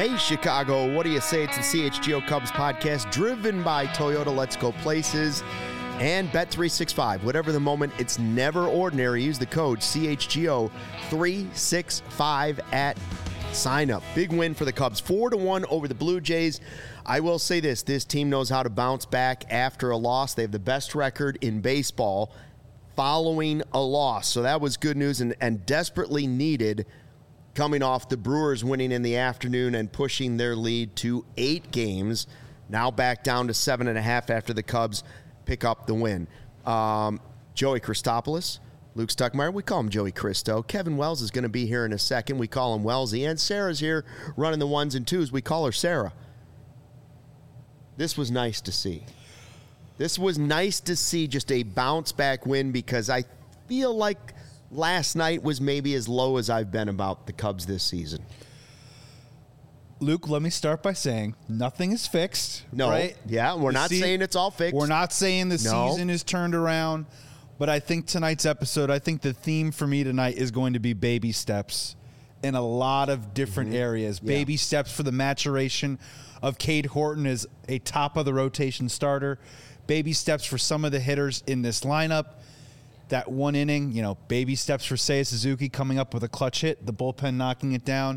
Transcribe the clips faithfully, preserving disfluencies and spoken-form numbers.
Hey, Chicago, what do you say? It's the C H G O Cubs podcast driven by Toyota. Let's go places. And Bet three sixty-five. Whatever the moment, it's never ordinary. Use the code C H G O three sixty-five at sign up. Big win for the Cubs. four to one over the Blue Jays. I will say this. This team knows how to bounce back after a loss. They have the best record in baseball following a loss. So that was good news and, and desperately needed coming off the Brewers winning in the afternoon and pushing their lead to eight games. Now back down to seven and a half after the Cubs pick up the win. Um, Joey Christopoulos, Luke Stuckmeyer, we call him Joey Christo. Kevin Wells is going to be here in a second. We call him Wellsy. And Sarah's here running the ones and twos. We call her Sarah. This was nice to see. This was nice to see, just a bounce-back win, because I feel like last night was maybe as low as I've been about the Cubs this season. Luke, let me start by saying nothing is fixed. No, right? yeah, we're The not se- saying it's all fixed. We're not saying the No. season is turned around, but I think tonight's episode, I think the theme for me tonight is going to be baby steps in a lot of different Mm-hmm. areas. Yeah. Baby steps for the maturation of Cade Horton as a top-of-the-rotation starter. Baby steps for some of the hitters in this lineup. That one inning, you know, baby steps for Seiya Suzuki coming up with a clutch hit, the bullpen knocking it down.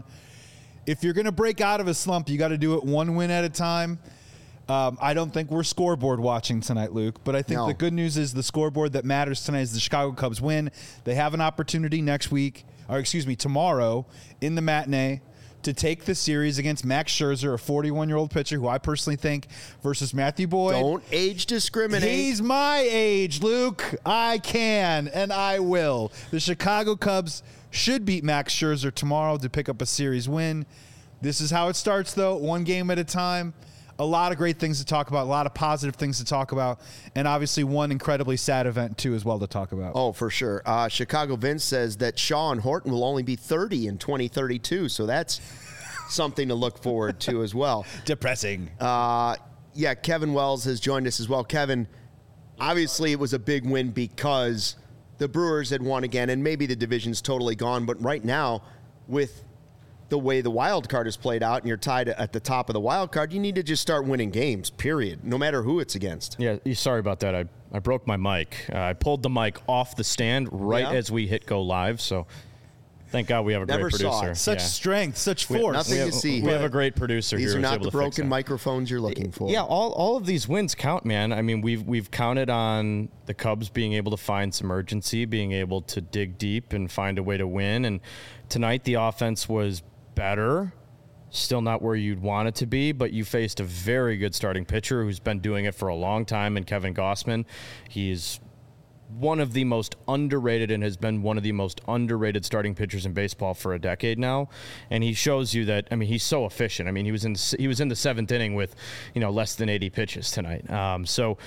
If you're going to break out of a slump, you got to do it one win at a time. Um, I don't think we're scoreboard watching tonight, Luke, but I think No. the good news is the scoreboard that matters tonight is the Chicago Cubs win. They have an opportunity next week, or excuse me, tomorrow in the matinee to take the series against Max Scherzer, a forty-one-year-old pitcher who I personally think, versus Matthew Boyd. Don't age discriminate. He's my age, Luke. I can, and I will. The Chicago Cubs should beat Max Scherzer tomorrow to pick up a series win. This is how it starts, though, one game at a time. A lot of great things to talk about, a lot of positive things to talk about, and obviously one incredibly sad event, too, as well to talk about. Oh, for sure. Uh, Chicago Vince says that Shaw and Horton will only be thirty in twenty thirty-two, so that's something to look forward to as well. Depressing. Uh, yeah, Kevin Wells has joined us as well. Kevin, obviously it was a big win because the Brewers had won again, and maybe the division's totally gone, but right now, with the way the wild card is played out and you're tied at the top of the wild card, you need to just start winning games, period, no matter who it's against. Yeah, sorry about that. I, I broke my mic. Uh, I pulled the mic off the stand right Yeah. as we hit go live, so thank God we have a Never great saw producer. it. Such Yeah. strength, such We have force. nothing we to have, see we here. have a great producer These here are who's not able the to fix broken that. microphones you're looking for. Yeah, all, all of these wins count, man. I mean, we've we've counted on the Cubs being able to find some urgency, being able to dig deep and find a way to win. And tonight the offense was better. Still not where you'd want it to be, but you faced a very good starting pitcher who's been doing it for a long time in Kevin Gausman. He's one of the most underrated and has been one of the most underrated starting pitchers in baseball for a decade now. And he shows you that, I mean, he's so efficient. I mean, he was in he was in the seventh inning with, you know, less than eighty pitches tonight. Um, so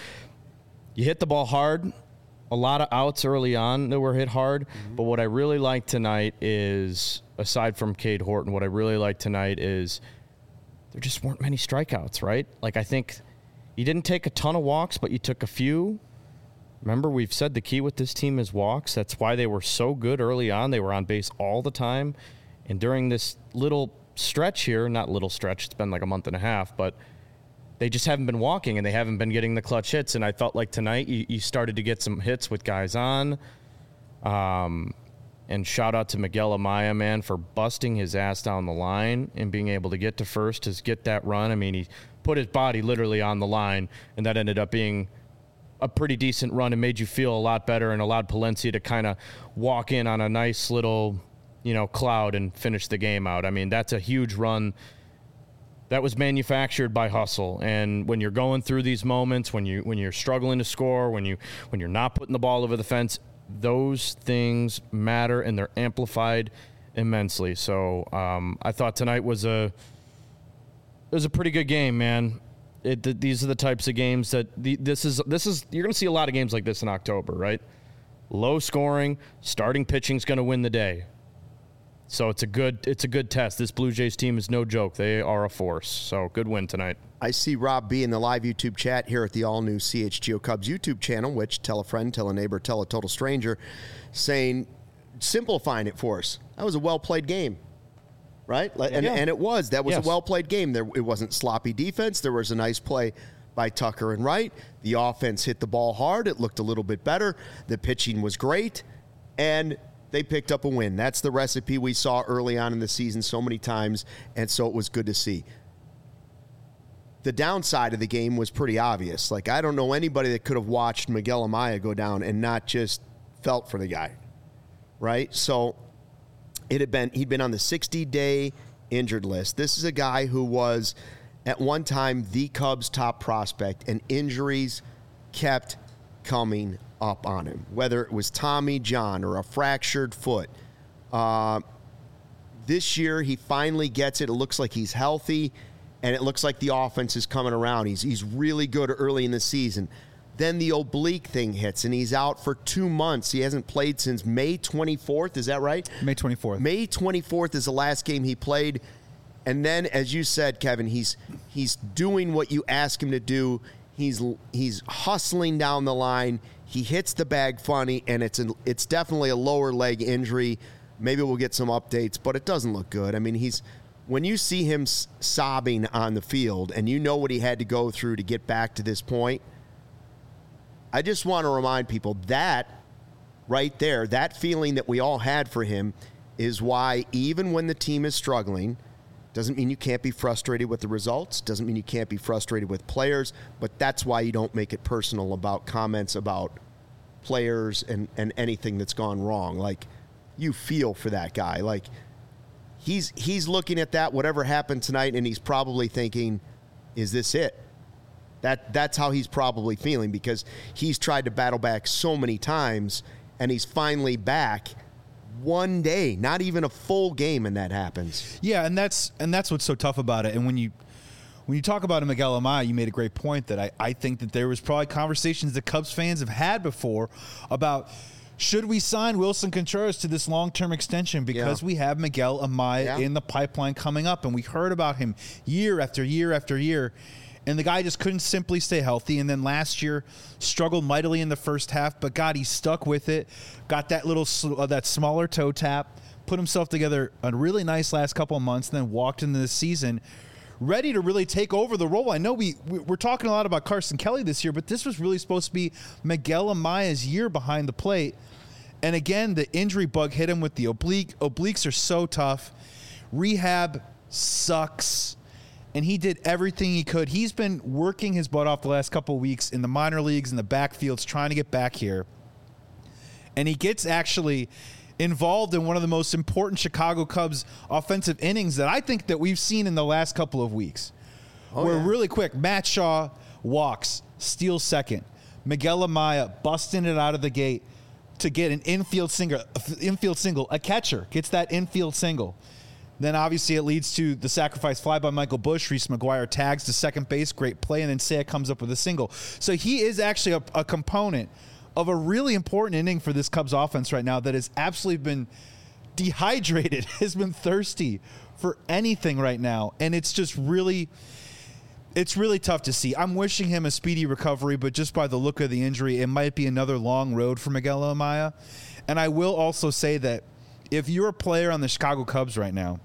you hit the ball hard. A lot of outs early on that were hit hard. Mm-hmm. But what I really like tonight is, aside from Cade Horton, what I really like tonight is there just weren't many strikeouts, right? Like, I think you didn't take a ton of walks, but you took a few. Remember, we've said the key with this team is walks. That's why they were so good early on. They were on base all the time. And during this little stretch here, not little stretch, it's been like a month and a half, but they just haven't been walking and they haven't been getting the clutch hits. And I felt like tonight you, you started to get some hits with guys on. Um, and shout out to Miguel Amaya, man, for busting his ass down the line and being able to get to first to get that run. I mean, he put his body literally on the line, and that ended up being a pretty decent run and made you feel a lot better and allowed Palencia to kind of walk in on a nice little, you know, cloud and finish the game out. I mean, that's a huge run that was manufactured by hustle. And when you're going through these moments, when you when you're struggling to score, when you when you're not putting the ball over the fence, those things matter and they're amplified immensely. So um, I thought tonight was a it was a pretty good game, man. It, th- these are the types of games that the, this is this is you're going to see a lot of games like this in October, right? Low scoring, starting pitching's going to win the day. So it's a good it's a good test. This Blue Jays team is no joke. They are a force. So good win tonight. I see Rob B in the live YouTube chat here at the all-new C H G O Cubs YouTube channel, which tell a friend, tell a neighbor, tell a total stranger, saying, simplifying it for us. That was a well-played game. right? And, Yeah. and it was. That was Yes. a well-played game. There, it wasn't sloppy defense. There was a nice play by Tucker and Wright. The offense hit the ball hard. It looked a little bit better. The pitching was great, and they picked up a win. That's the recipe we saw early on in the season so many times, and so it was good to see. The downside of the game was pretty obvious. Like, I don't know anybody that could have watched Miguel Amaya go down and not just felt for the guy, right? So it had been he'd been on the sixty-day injured list. This is a guy who was at one time the Cubs' top prospect, and injuries kept coming up on him, whether it was Tommy John or a fractured foot. Uh, this year, he finally gets it. It looks like he's healthy, and it looks like the offense is coming around. He's he's really good early in the season. Then the oblique thing hits, and he's out for two months. He hasn't played since May twenty-fourth. Is that right? May twenty-fourth. May twenty-fourth is the last game he played. And then, as you said, Kevin, he's he's doing what you ask him to do. He's he's hustling down the line. He hits the bag funny, and it's an, it's definitely a lower leg injury. Maybe we'll get some updates, but it doesn't look good. I mean, he's when you see him sobbing on the field, and you know what he had to go through to get back to this point. I just want to remind people that right there, that feeling that we all had for him is why even when the team is struggling, doesn't mean you can't be frustrated with the results, doesn't mean you can't be frustrated with players, but that's why you don't make it personal about comments about players and, and anything that's gone wrong. Like, you feel for that guy. Like, he's he's looking at that, whatever happened tonight, and he's probably thinking, is this it? That That's how he's probably feeling, because he's tried to battle back so many times, and he's finally back one day, not even a full game, and that happens. Yeah, and that's and that's what's so tough about it. And when you when you talk about Miguel Amaya, you made a great point that I, I think that there was probably conversations that Cubs fans have had before about, should we sign Wilson Contreras to this long-term extension because yeah. we have Miguel Amaya yeah. in the pipeline coming up, and we heard about him year after year after year. And the guy just couldn't simply stay healthy. And then last year struggled mightily in the first half, but God, he stuck with it. Got that little uh, that smaller toe tap, put himself together a really nice last couple of months, and then walked into the season ready to really take over the role. I know we we're talking a lot about Carson Kelly this year, but this was really supposed to be Miguel Amaya's year behind the plate. And again, the injury bug hit him with the oblique. Obliques are so tough. Rehab sucks. And he did everything he could. He's been working his butt off the last couple of weeks in the minor leagues, in the backfields, trying to get back here. And he gets actually involved in one of the most important Chicago Cubs offensive innings that I think that we've seen in the last couple of weeks. Oh, Where yeah. really quick, Matt Shaw walks, steals second. Miguel Amaya busting it out of the gate to get an infield single, infield single. A catcher gets that infield single. Then obviously it leads to the sacrifice fly by Michael Busch. Reese McGuire tags to second base. Great play. And then Seiya comes up with a single. So he is actually a, a component of a really important inning for this Cubs offense right now that has absolutely been dehydrated, has been thirsty for anything right now. And it's just really, it's really tough to see. I'm wishing him a speedy recovery, but just by the look of the injury, it might be another long road for Miguel Amaya. And I will also say that if you're a player on the Chicago Cubs right now,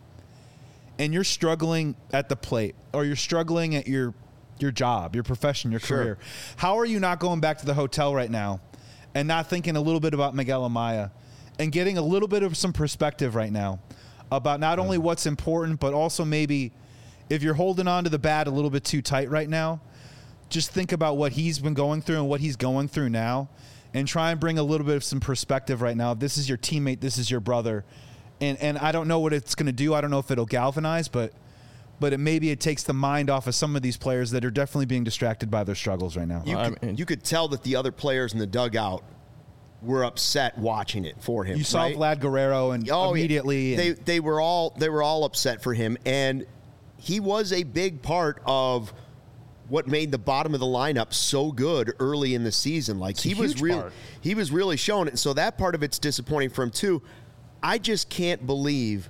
and you're struggling at the plate, or you're struggling at your your job, your profession, your sure. career, how are you not going back to the hotel right now and not thinking a little bit about Miguel Amaya and getting a little bit of some perspective right now about not only what's important, but also maybe if you're holding on to the bat a little bit too tight right now, just think about what he's been going through and what he's going through now, and try and bring a little bit of some perspective right now. This is your teammate. This is your brother. And and I don't know what it's going to do. I don't know if it'll galvanize, but but it maybe it takes the mind off of some of these players that are definitely being distracted by their struggles right now. You, uh, could, I mean, you could tell that the other players in the dugout were upset watching it for him. You saw right? Vlad Guerrero and oh, immediately. Yeah. They they were all they were all upset for him, and he was a big part of what made the bottom of the lineup so good early in the season. Like it's he was real, he was really showing it. So that part of it's disappointing for him too. I just can't believe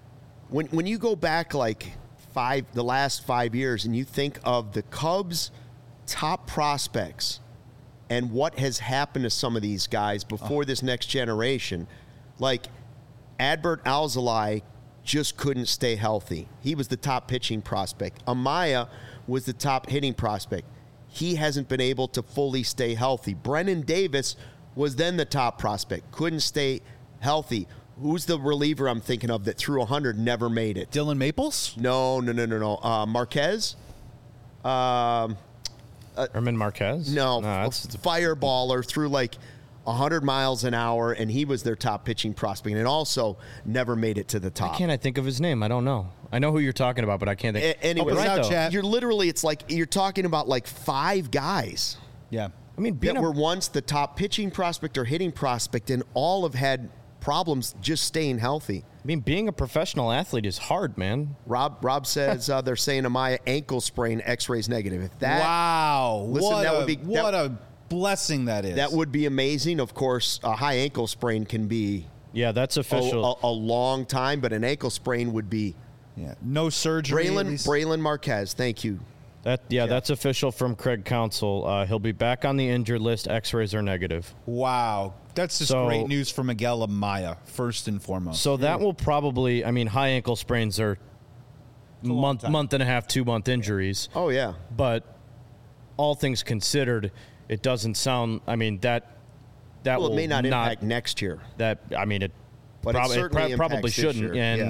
when when you go back like five the last five years and you think of the Cubs' top prospects and what has happened to some of these guys before oh. this next generation. Like Adbert Alzolay just couldn't stay healthy. He was the top pitching prospect. Amaya was the top hitting prospect. He hasn't been able to fully stay healthy. Brennan Davis was then the top prospect, couldn't stay healthy. Who's the reliever I'm thinking of that threw one hundred, never made it? Dylan Maples? No, no, no, no, no. Uh, Marquez? Um, uh, Herman Marquez? No, no a fireballer, threw like one hundred miles an hour, and he was their top pitching prospect, and also never made it to the top. Why can't I think of his name? I don't know. I know who you're talking about, but I can't think. A- anyway, oh, right, out, you're literally, it's like you're talking about like five guys. Yeah. I mean, being that a, were once the top pitching prospect or hitting prospect, and all have had problems just staying healthy. I mean, being a professional athlete is hard, man. Rob Rob says uh, they're saying Amaya ankle sprain, X-rays negative. If that wow, listen, what that a, would be what that, a blessing that is. That would be amazing. Of course, a high ankle sprain can be yeah, that's a, official. a, a long time, but an ankle sprain would be yeah, no surgery. Braylon Braylon Marquez, thank you. That yeah, Jeff. That's official from Craig Counsell. Uh, he'll be back on the injured list. X-rays are negative. Wow, that's just So- great news for Miguel Amaya, first and foremost. So that will probably. I mean, high ankle sprains are long month time. month and a half, two month injuries. Oh yeah, But all things considered, it doesn't sound. I mean that that well, will it may not, impact next year, that. I mean it. but prob- it certainly pro- probably impacts this shouldn't. year. And yeah.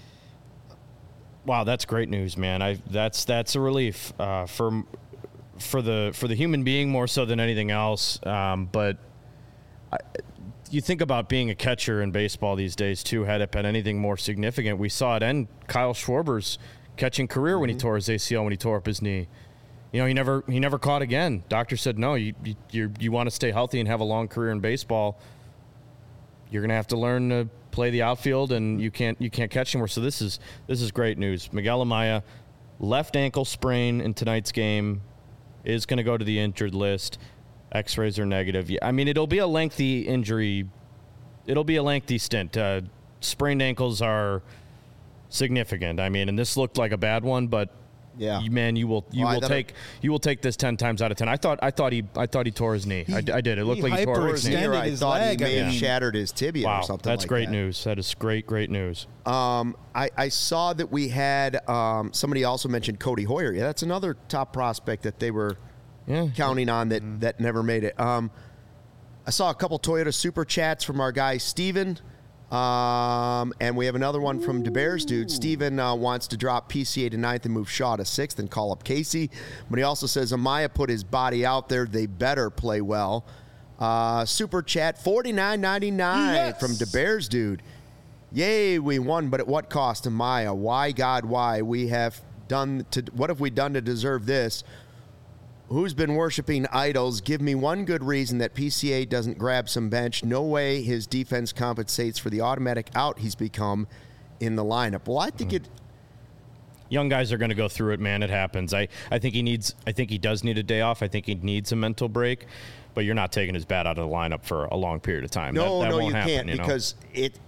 wow, that's great news, man. I that's that's a relief uh, for for the for the human being more so than anything else. Um, but I, you think about being a catcher in baseball these days too. Had it been anything more significant, we saw it end Kyle Schwarber's catching career mm-hmm. when he tore his A C L when he tore up his knee. You know, he never he never caught again. Doctor said, no, you you you, you want to stay healthy and have a long career in baseball. You're gonna have to learn to play the outfield, and you can't you can't catch anymore. So this is this is great news. Miguel Amaya, left ankle sprain in tonight's game, is going to go to the injured list. X-rays are negative. I mean, it'll be a lengthy injury. It'll be a lengthy stint. Uh, sprained ankles are significant. I mean, and this looked like a bad one, but Yeah, you, man, you will you Well, I will thought take you will take this ten times out of ten. I thought I thought he I thought he tore his knee. I, I did. It looked he like he tore his knee. hyperextended I his thought leg, he I may have mean. shattered his tibia Wow, or something. that's like great that. news. That is great, great news. Um, I, I saw that we had um, somebody also mentioned Cody Hoyer. Yeah, that's another top prospect that they were Yeah. counting on that Mm-hmm. that never made it. Um, I saw a couple Toyota super chats from our guy Steven. Um, and we have another one from DeBears dude. Steven uh, wants to drop P C A to ninth and move Shaw to sixth and call up Casey. But he also says Amaya put his body out there. They better play well. Uh, super chat forty-nine ninety-nine Yes. from DeBears dude. Yay, we won, but at what cost, Amaya? Why, God, why? We have done to what have we done to deserve this? Who's been worshiping idols? Give me one good reason that P C A doesn't grab some bench. No way his defense compensates for the automatic out he's become in the lineup. Well, I think it. Young guys are going to go through it, man. It happens. I, I think he needs. I think he does need a day off. I think he needs a mental break. But you're not taking his bat out of the lineup for a long period of time. No, that, that no, won't you happen, can't you know? because it.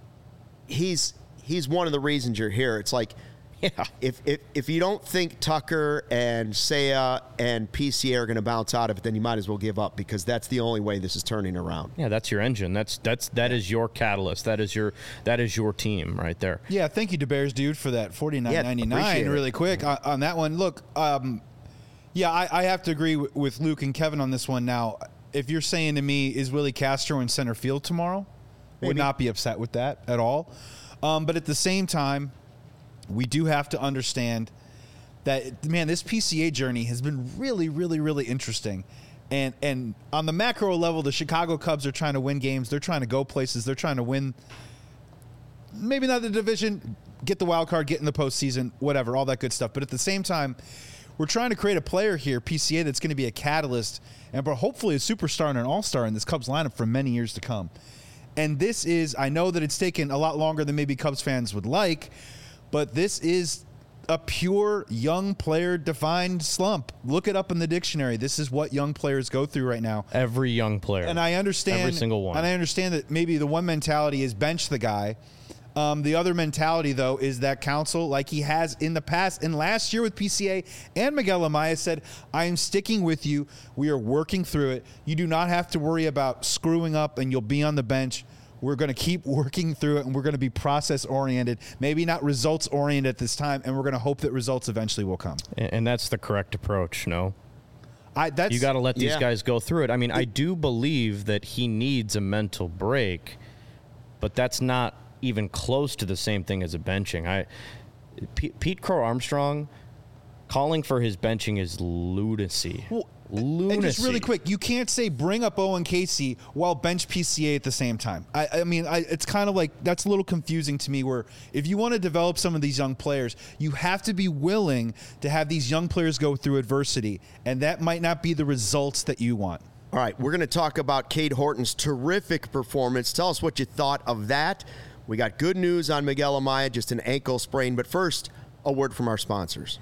He's he's one of the reasons you're here. It's like. Yeah. If, if if you don't think Tucker and Seiya and P C A are going to bounce out of it, then you might as well give up because that's the only way this is turning around. Yeah, that's your engine. That's that's that is your catalyst. That is your that is your team right there. Yeah, thank you, DeBears dude, for that forty-nine Yeah, ninety-nine. appreciate it. Really quick on, on that one. Look, um, yeah, I, I have to agree w- with Luke and Kevin on this one. Now, if you're saying to me, is Willie Castro in center field tomorrow? Would Maybe. not be upset with that at all. Um, but at the same time, we do have to understand that, man, this P C A journey has been really, really, really interesting. And and on the macro level, the Chicago Cubs are trying to win games. They're trying to go places. They're trying to win, maybe not the division, get the wild card, get in the postseason, whatever, all that good stuff. But at the same time, we're trying to create a player here, P C A, that's going to be a catalyst and hopefully a superstar and an all-star in this Cubs lineup for many years to come. And this is, I know that it's taken a lot longer than maybe Cubs fans would like, but this is a pure young player defined slump. Look it up in the dictionary. This is what young players go through right now. Every young player. And I understand Every single one. And I understand that maybe the one mentality is bench the guy. Um, the other mentality, though, is that Counsell, like he has in the past and last year with P C A and Miguel Amaya, said, I am sticking with you. We are working through it. You do not have to worry about screwing up and you'll be on the bench. We're going to keep working through it, and we're going to be process-oriented, maybe not results-oriented at this time, and we're going to hope that results eventually will come. And, and that's the correct approach, no? I, that's, you got to let these yeah. guys go through it. I mean, I do believe that he needs a mental break, but that's not even close to the same thing as a benching. I, P- Pete Crow-Armstrong, calling for his benching is lunacy. Well, Lunacy. And just really quick, you can't say bring up Owen Casey while bench P C A at the same time. I, I mean, I, it's kind of like that's a little confusing to me where if you want to develop some of these young players, you have to be willing to have these young players go through adversity, and that might not be the results that you want. All right, we're going to talk about Cade Horton's terrific performance. Tell us what you thought of that. We got good news on Miguel Amaya, just an ankle sprain. But first, a word from our sponsors.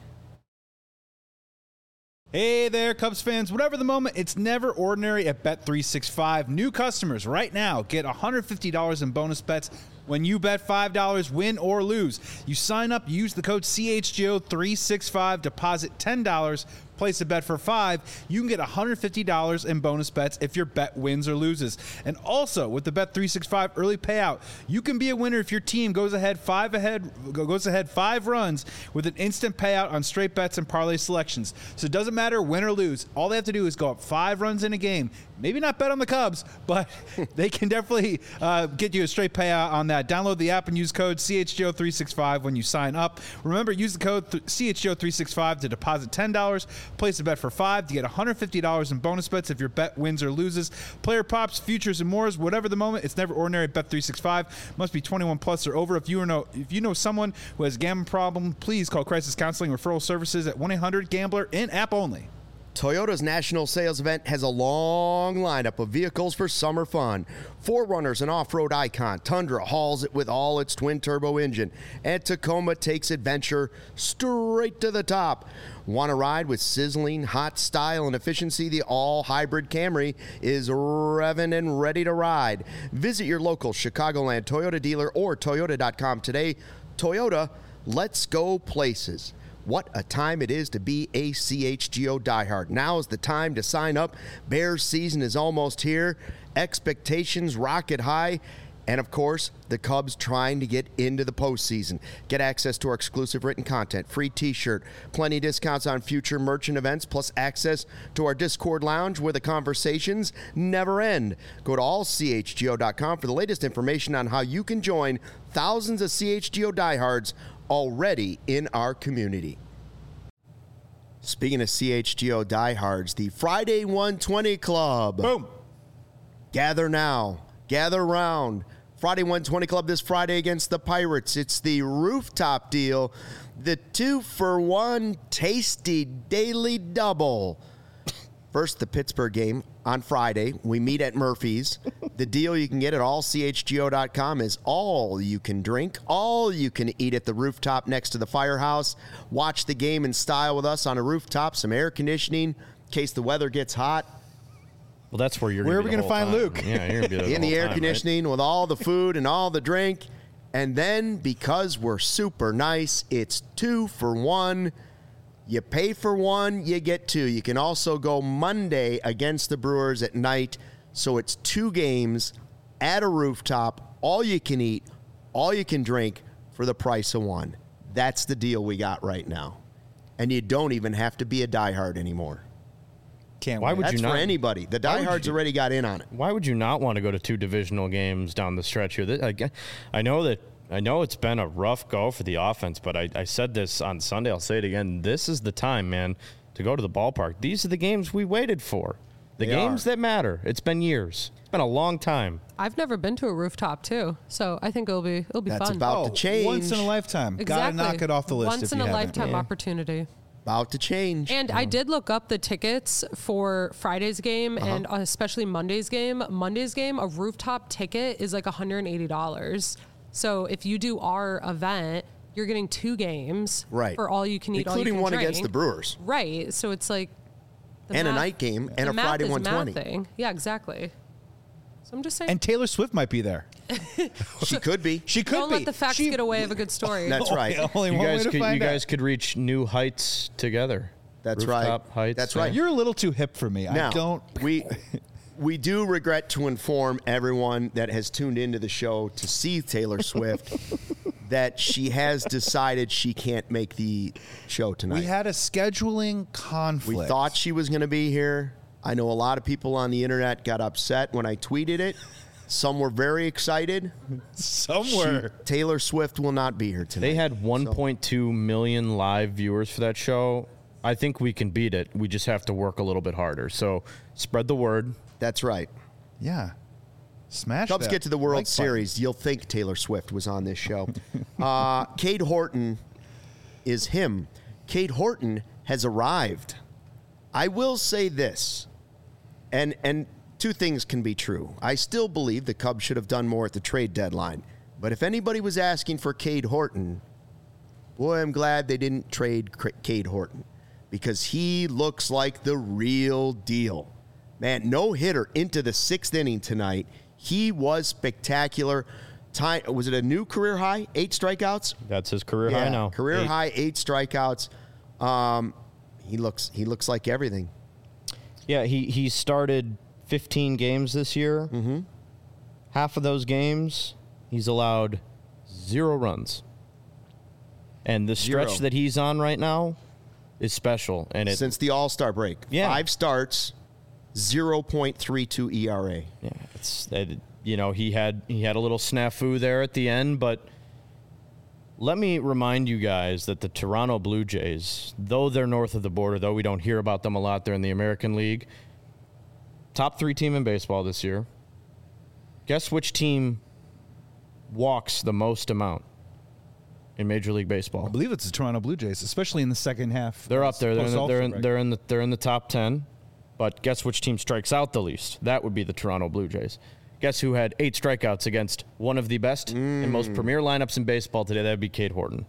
Hey there, Cubs fans. Whatever the moment, it's never ordinary at Bet three sixty-five. New customers right now get one hundred fifty dollars in bonus bets when you bet five dollars, win or lose. You sign up, use the code C H G O three sixty-five, deposit ten dollars, place a bet for five, you can get one hundred fifty dollars in bonus bets if your bet wins or loses. And also, with the Bet three sixty-five early payout, you can be a winner if your team goes ahead five ahead goes ahead five runs with an instant payout on straight bets and parlay selections. So it doesn't matter win or lose. All they have to do is go up five runs in a game. Maybe not bet on the Cubs, but they can definitely uh, get you a straight payout on that. Download the app and use code C H G O three sixty-five when you sign up. Remember, use the code th- C H G O three sixty-five to deposit ten dollars. Place a bet for five to get one hundred fifty dollars in bonus bets if your bet wins or loses. Player props, futures, and more. Whatever the moment, it's never ordinary at Bet three sixty-five. Must be twenty-one plus or over. If you know if you know someone who has a gambling problem, please call Crisis Counseling Referral Services at one eight hundred gambler in app only. Toyota's national sales event has a long lineup of vehicles for summer fun. four runner's an off-road icon. Tundra hauls it with all its twin-turbo engine. And Tacoma takes adventure straight to the top. Want to ride with sizzling hot style and efficiency? The all-hybrid Camry is revving and ready to ride. Visit your local Chicagoland Toyota dealer or Toyota dot com today. Toyota, let's go places. What a time it is to be a C H G O diehard. Now is the time to sign up. Bears season is almost here. Expectations rocket high. And, of course, the Cubs trying to get into the postseason. Get access to our exclusive written content, free T-shirt, plenty of discounts on future merchant events, plus access to our Discord lounge where the conversations never end. Go to all C H G O dot com for the latest information on how you can join thousands of C H G O diehards already in our community. Speaking of C H G O diehards, the Friday one twenty Club. Boom. Gather now. Gather round. Friday one twenty Club this Friday against the Pirates. It's the rooftop deal. The two for one tasty daily double. First, the Pittsburgh game on Friday. We meet at Murphy's. The deal you can get at all C H G O dot com is all you can drink, all you can eat at the rooftop next to the firehouse. Watch the game in style with us on a rooftop, some air conditioning in case the weather gets hot. Well, that's where you're Where gonna are we going to find time. Luke? Yeah, you're going to be there in the whole air time, conditioning right? with all the food and all the drink. And then because we're super nice, it's two for one. You pay for one, you get two. You can also go Monday against the Brewers at night. So it's two games at a rooftop, all you can eat, all you can drink for the price of one. That's the deal we got right now. And you don't even have to be a diehard anymore. Can't Why wait. would That's you for not? anybody. The Why would diehards you- already got in on it. Why would you not want to go to two divisional games down the stretch here? Th- I- I know that I know it's been a rough go for the offense, but I, I said this on Sunday. I'll say it again. This is the time, man, to go to the ballpark. These are the games we waited for. The They games are. that matter. It's been years. It's been a long time. I've never been to a rooftop too, so I think it'll be it'll be That's fun. about Oh, to change. once in a lifetime. exactly. Gotta knock it off the list. Once if in you a haven't. lifetime opportunity. About to change. And I did look up the tickets for Friday's game and especially Monday's game. Monday's game, a rooftop ticket is like one hundred eighty dollars. So if you do our event, you're getting two games Right. for all you can eat, all you Including can one drink. against the Brewers. Right. So it's like the And a math- night game and the a math Friday is one twenty. mathing. Yeah, exactly. So I'm just saying. And Taylor Swift might be there. She could be. She could don't be. let the facts She- get away of a good story. That's right. Only You one way guys to could find you out. guys could reach new heights together. That's Rooftop right. Heights. That's yeah. right. You're a little too hip for me. Now, I don't. we we do regret to inform everyone that has tuned into the show to see Taylor Swift that she has decided she can't make the show tonight. We had a scheduling conflict. We thought she was going to be here. I know a lot of people on the internet got upset when I tweeted it. Some were very excited. Somewhere. She, Taylor Swift will not be here tonight. They had one point two million live viewers for that show. I think we can beat it. We just have to work a little bit harder. So spread the word. That's right. Yeah. Smash Cubs that get to the World like Series. button. You'll think Taylor Swift was on this show. uh, Cade Horton is him. Cade Horton has arrived. I will say this, and and two things can be true. I still believe the Cubs should have done more at the trade deadline. But if anybody was asking for Cade Horton, boy, I'm glad they didn't trade Cade Horton because he looks like the real deal. Man, no hitter into the sixth inning tonight. He was spectacular. Time, was it a new career high? Eight strikeouts? That's his career yeah, high now. Career Eight. high, eight strikeouts. Um, he looks he looks like everything. Yeah, he, he started fifteen games this year. Mm-hmm. Half of those games, he's allowed zero runs. And the stretch Zero. that he's on right now is special. And it, Since the All-Star break. Yeah. Five starts, zero point three two E R A. yeah, it's it, you know he had he had a little snafu there at the end, but let me remind you guys that the Toronto Blue Jays, though they're north of the border, though we don't hear about them a lot, they're in the American League. Top three team in baseball this year. Guess which team walks the most amount in Major League Baseball? I believe it's the Toronto Blue Jays, especially in the second half. They're up there. They're in the, they're in, Post-All-Star they're in the they're in the top ten. But guess which team strikes out the least? That would be the Toronto Blue Jays. Guess who had eight strikeouts against one of the best Mm. and most premier lineups in baseball today? That'd be Cade Horton.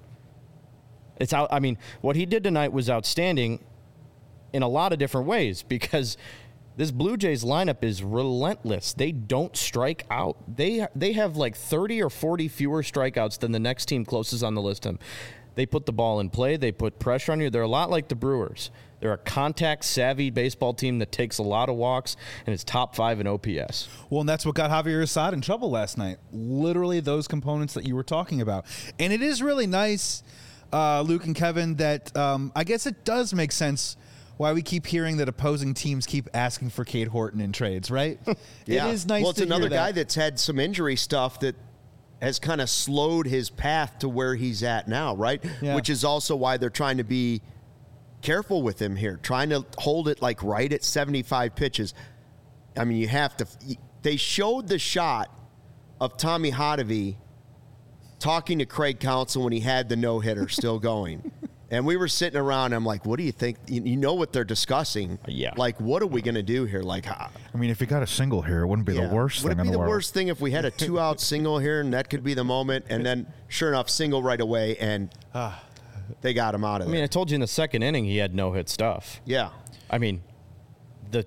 It's out. I mean, what he did tonight was outstanding in a lot of different ways because this Blue Jays lineup is relentless. They don't strike out. They they have like thirty or forty fewer strikeouts than the next team closest on the list. Him. They put the ball in play. They put pressure on you. They're a lot like the Brewers. They're a contact-savvy baseball team that takes a lot of walks and is top five in O P S. Well, and that's what got Javier Assad in trouble last night. Literally those components that you were talking about. And it is really nice, uh, Luke and Kevin, that um, I guess it does make sense why we keep hearing that opposing teams keep asking for Cade Horton in trades, right? Yeah. It is nice Well, it's to another hear that. guy that's had some injury stuff that has kind of slowed his path to where he's at now, right? Yeah. Which is also why they're trying to be careful with him here, trying to hold it like right at seventy-five pitches. I mean, you have to. They showed the shot of Tommy Hotovy talking to Craig Counsell when he had the no-hitter still going. And we were sitting around. I'm like, what do you think? You, you know what they're discussing? Yeah. Like, what are we going to do here? Like, I mean, if you got a single here, it wouldn't be yeah. the worst Would thing it in be the, the world. worst thing if we had a two-out single here and that could be the moment? And then, sure enough, single right away, and they got him out of I there. mean, I told you in the second inning he had no-hit stuff. Yeah. I mean, the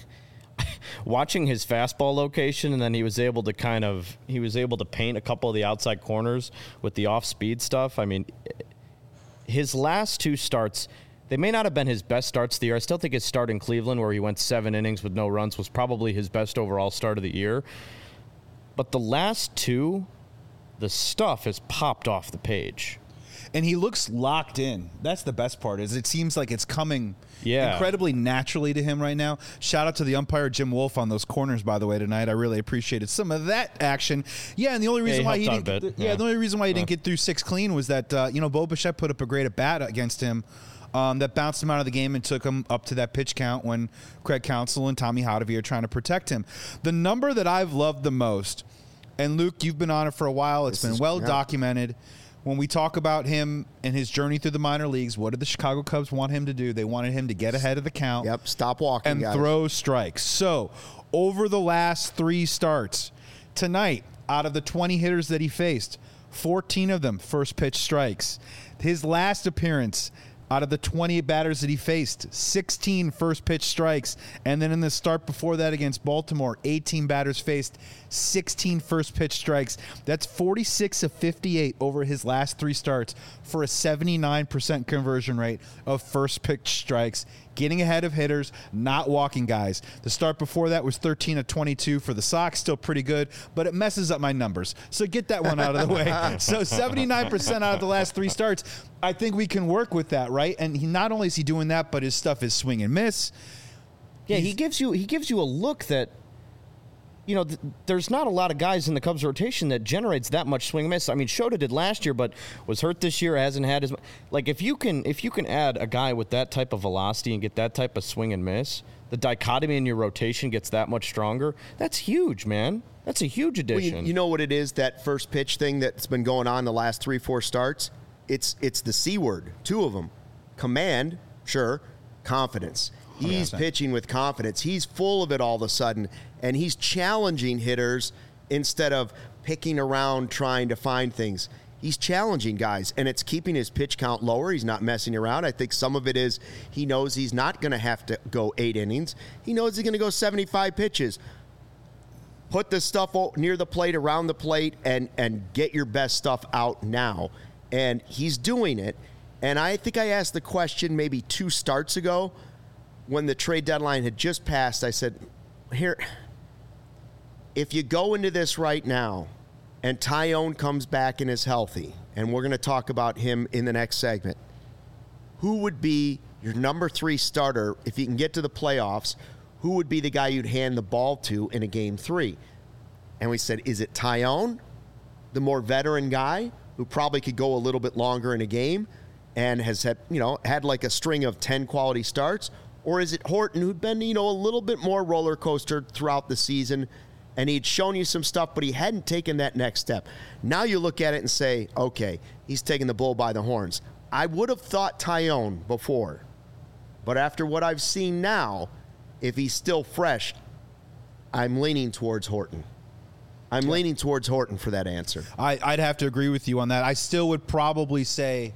watching his fastball location, and then he was able to kind of he was able to paint a couple of the outside corners with the off-speed stuff. I mean, his last two starts, they may not have been his best starts of the year. I still think his start in Cleveland, where he went seven innings with no runs, was probably his best overall start of the year. But the last two, the stuff has popped off the page. And he looks locked in. That's the best part, is it seems like it's coming Yeah. incredibly naturally to him right now. Shout out to the umpire, Jim Wolf, on those corners, by the way, tonight. I really appreciated some of that action. Yeah, and the only reason he why he helped didn't out a get, bit. yeah, Yeah. the only reason why he didn't get through six clean was that uh, you know, Bo Bichette put up a great at bat against him. Um, that bounced him out of the game and took him up to that pitch count when Craig Counsell and Tommy Hotovy are trying to protect him. The number that I've loved the most, and Luke, you've been on it for a while. It's This been is- well yeah. documented. When we talk about him and his journey through the minor leagues, what did the Chicago Cubs want him to do? They wanted him to get ahead of the count. Yep. Stop walking, And guys. throw strikes. So, over the last three starts, tonight, out of the twenty hitters that he faced, fourteen of them first pitch strikes. His last appearance, out of the twenty batters that he faced, sixteen first pitch strikes. And then in the start before that against Baltimore, eighteen batters faced, sixteen first pitch strikes. That's forty-six of fifty-eight over his last three starts for a seventy-nine percent conversion rate of first pitch strikes. getting ahead of hitters, not walking guys. The start before that was thirteen of twenty-two for the Sox, still pretty good, but it messes up my numbers. So get that one out of the way. So seventy-nine percent out of the last three starts, I think we can work with that, right? And he not only is he doing that, but his stuff is swing and miss. Yeah, He's, he gives you he gives you a look that, you know, th- there's not a lot of guys in the Cubs rotation that generates that much swing and miss. I mean, Shota did last year, but was hurt this year, hasn't had as much. Like, if you can if you can add a guy with that type of velocity and get that type of swing and miss, the dichotomy in your rotation gets that much stronger. That's huge, man. That's a huge addition. Well, you, you know what it is, that first pitch thing that's been going on the last three, four starts? It's it's the C word, two of them. Command, sure, confidence. He's pitching with confidence. He's full of it all of a sudden, and he's challenging hitters instead of picking around trying to find things. He's challenging guys, and it's keeping his pitch count lower. He's not messing around. I think some of it is he knows he's not going to have to go eight innings. He knows he's going to go seventy-five pitches. Put the stuff near the plate, around the plate, and, and get your best stuff out now. And he's doing it. And I think I asked the question maybe two starts ago, when the trade deadline had just passed. I said, here, if you go into this right now and Taillon comes back and is healthy, and we're going to talk about him in the next segment, who would be your number three starter if you can get to the playoffs? Who would be the guy you'd hand the ball to in a game three? And we said, is it Taillon, the more veteran guy who probably could go a little bit longer in a game and has had, you know, had like a string of ten quality starts? Or is it Horton, who'd been, you know, a little bit more roller coaster throughout the season, and he'd shown you some stuff, but he hadn't taken that next step? Now you look at it and say, okay, he's taking the bull by the horns. I would have thought Taillon before, but after what I've seen now, if he's still fresh, I'm leaning towards Horton. I'm leaning towards Horton for that answer. I, I'd have to agree with you on that. I still would probably say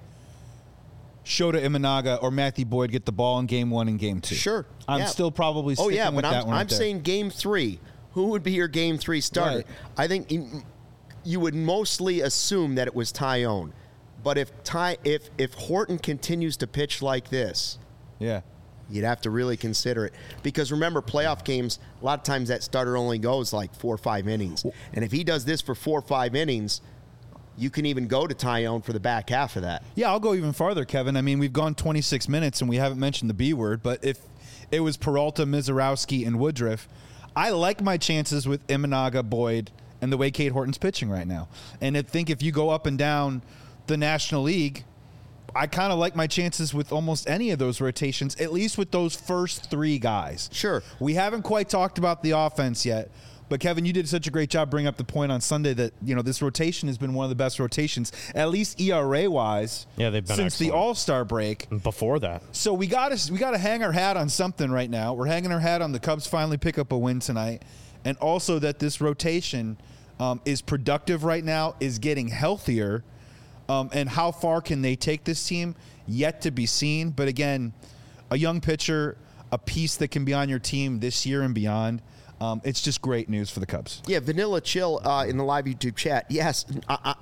Shota Imanaga or Matthew Boyd get the ball in game one and game two. Sure. I'm yeah. still probably oh, sticking yeah, with but that I'm, one. I'm right there. saying game three. Who would be your game three starter? Right. I think you would mostly assume that it was Taillon. But if Ty, if if Horton continues to pitch like this, yeah, you'd have to really consider it. Because remember, playoff games, a lot of times that starter only goes like four or five innings. And if he does this for four or five innings, you can even go to Taillon for the back half of that. Yeah, I'll go even farther, Kevin. I mean, we've gone twenty-six minutes and we haven't mentioned the B word, but if it was Peralta, Mizorowski, and Woodruff, I like my chances with Imanaga, Boyd, and the way Cade Horton's pitching right now. And I think if you go up and down the National League, I kind of like my chances with almost any of those rotations, at least with those first three guys. Sure. We haven't quite talked about the offense yet. But, Kevin, you did such a great job bringing up the point on Sunday that, you know, this rotation has been one of the best rotations, at least E R A-wise, yeah, they've been since excellent. the All-Star break. Before that. So we got to we got to hang our hat on something right now. We're hanging our hat on the Cubs finally pick up a win tonight, and also that this rotation um, is productive right now, is getting healthier, um, and how far can they take this team? Yet to be seen. But, again, a young pitcher, a piece that can be on your team this year and beyond. Um, it's just great news for the Cubs. Yeah, Vanilla Chill uh, in the live YouTube chat. Yes, I, I,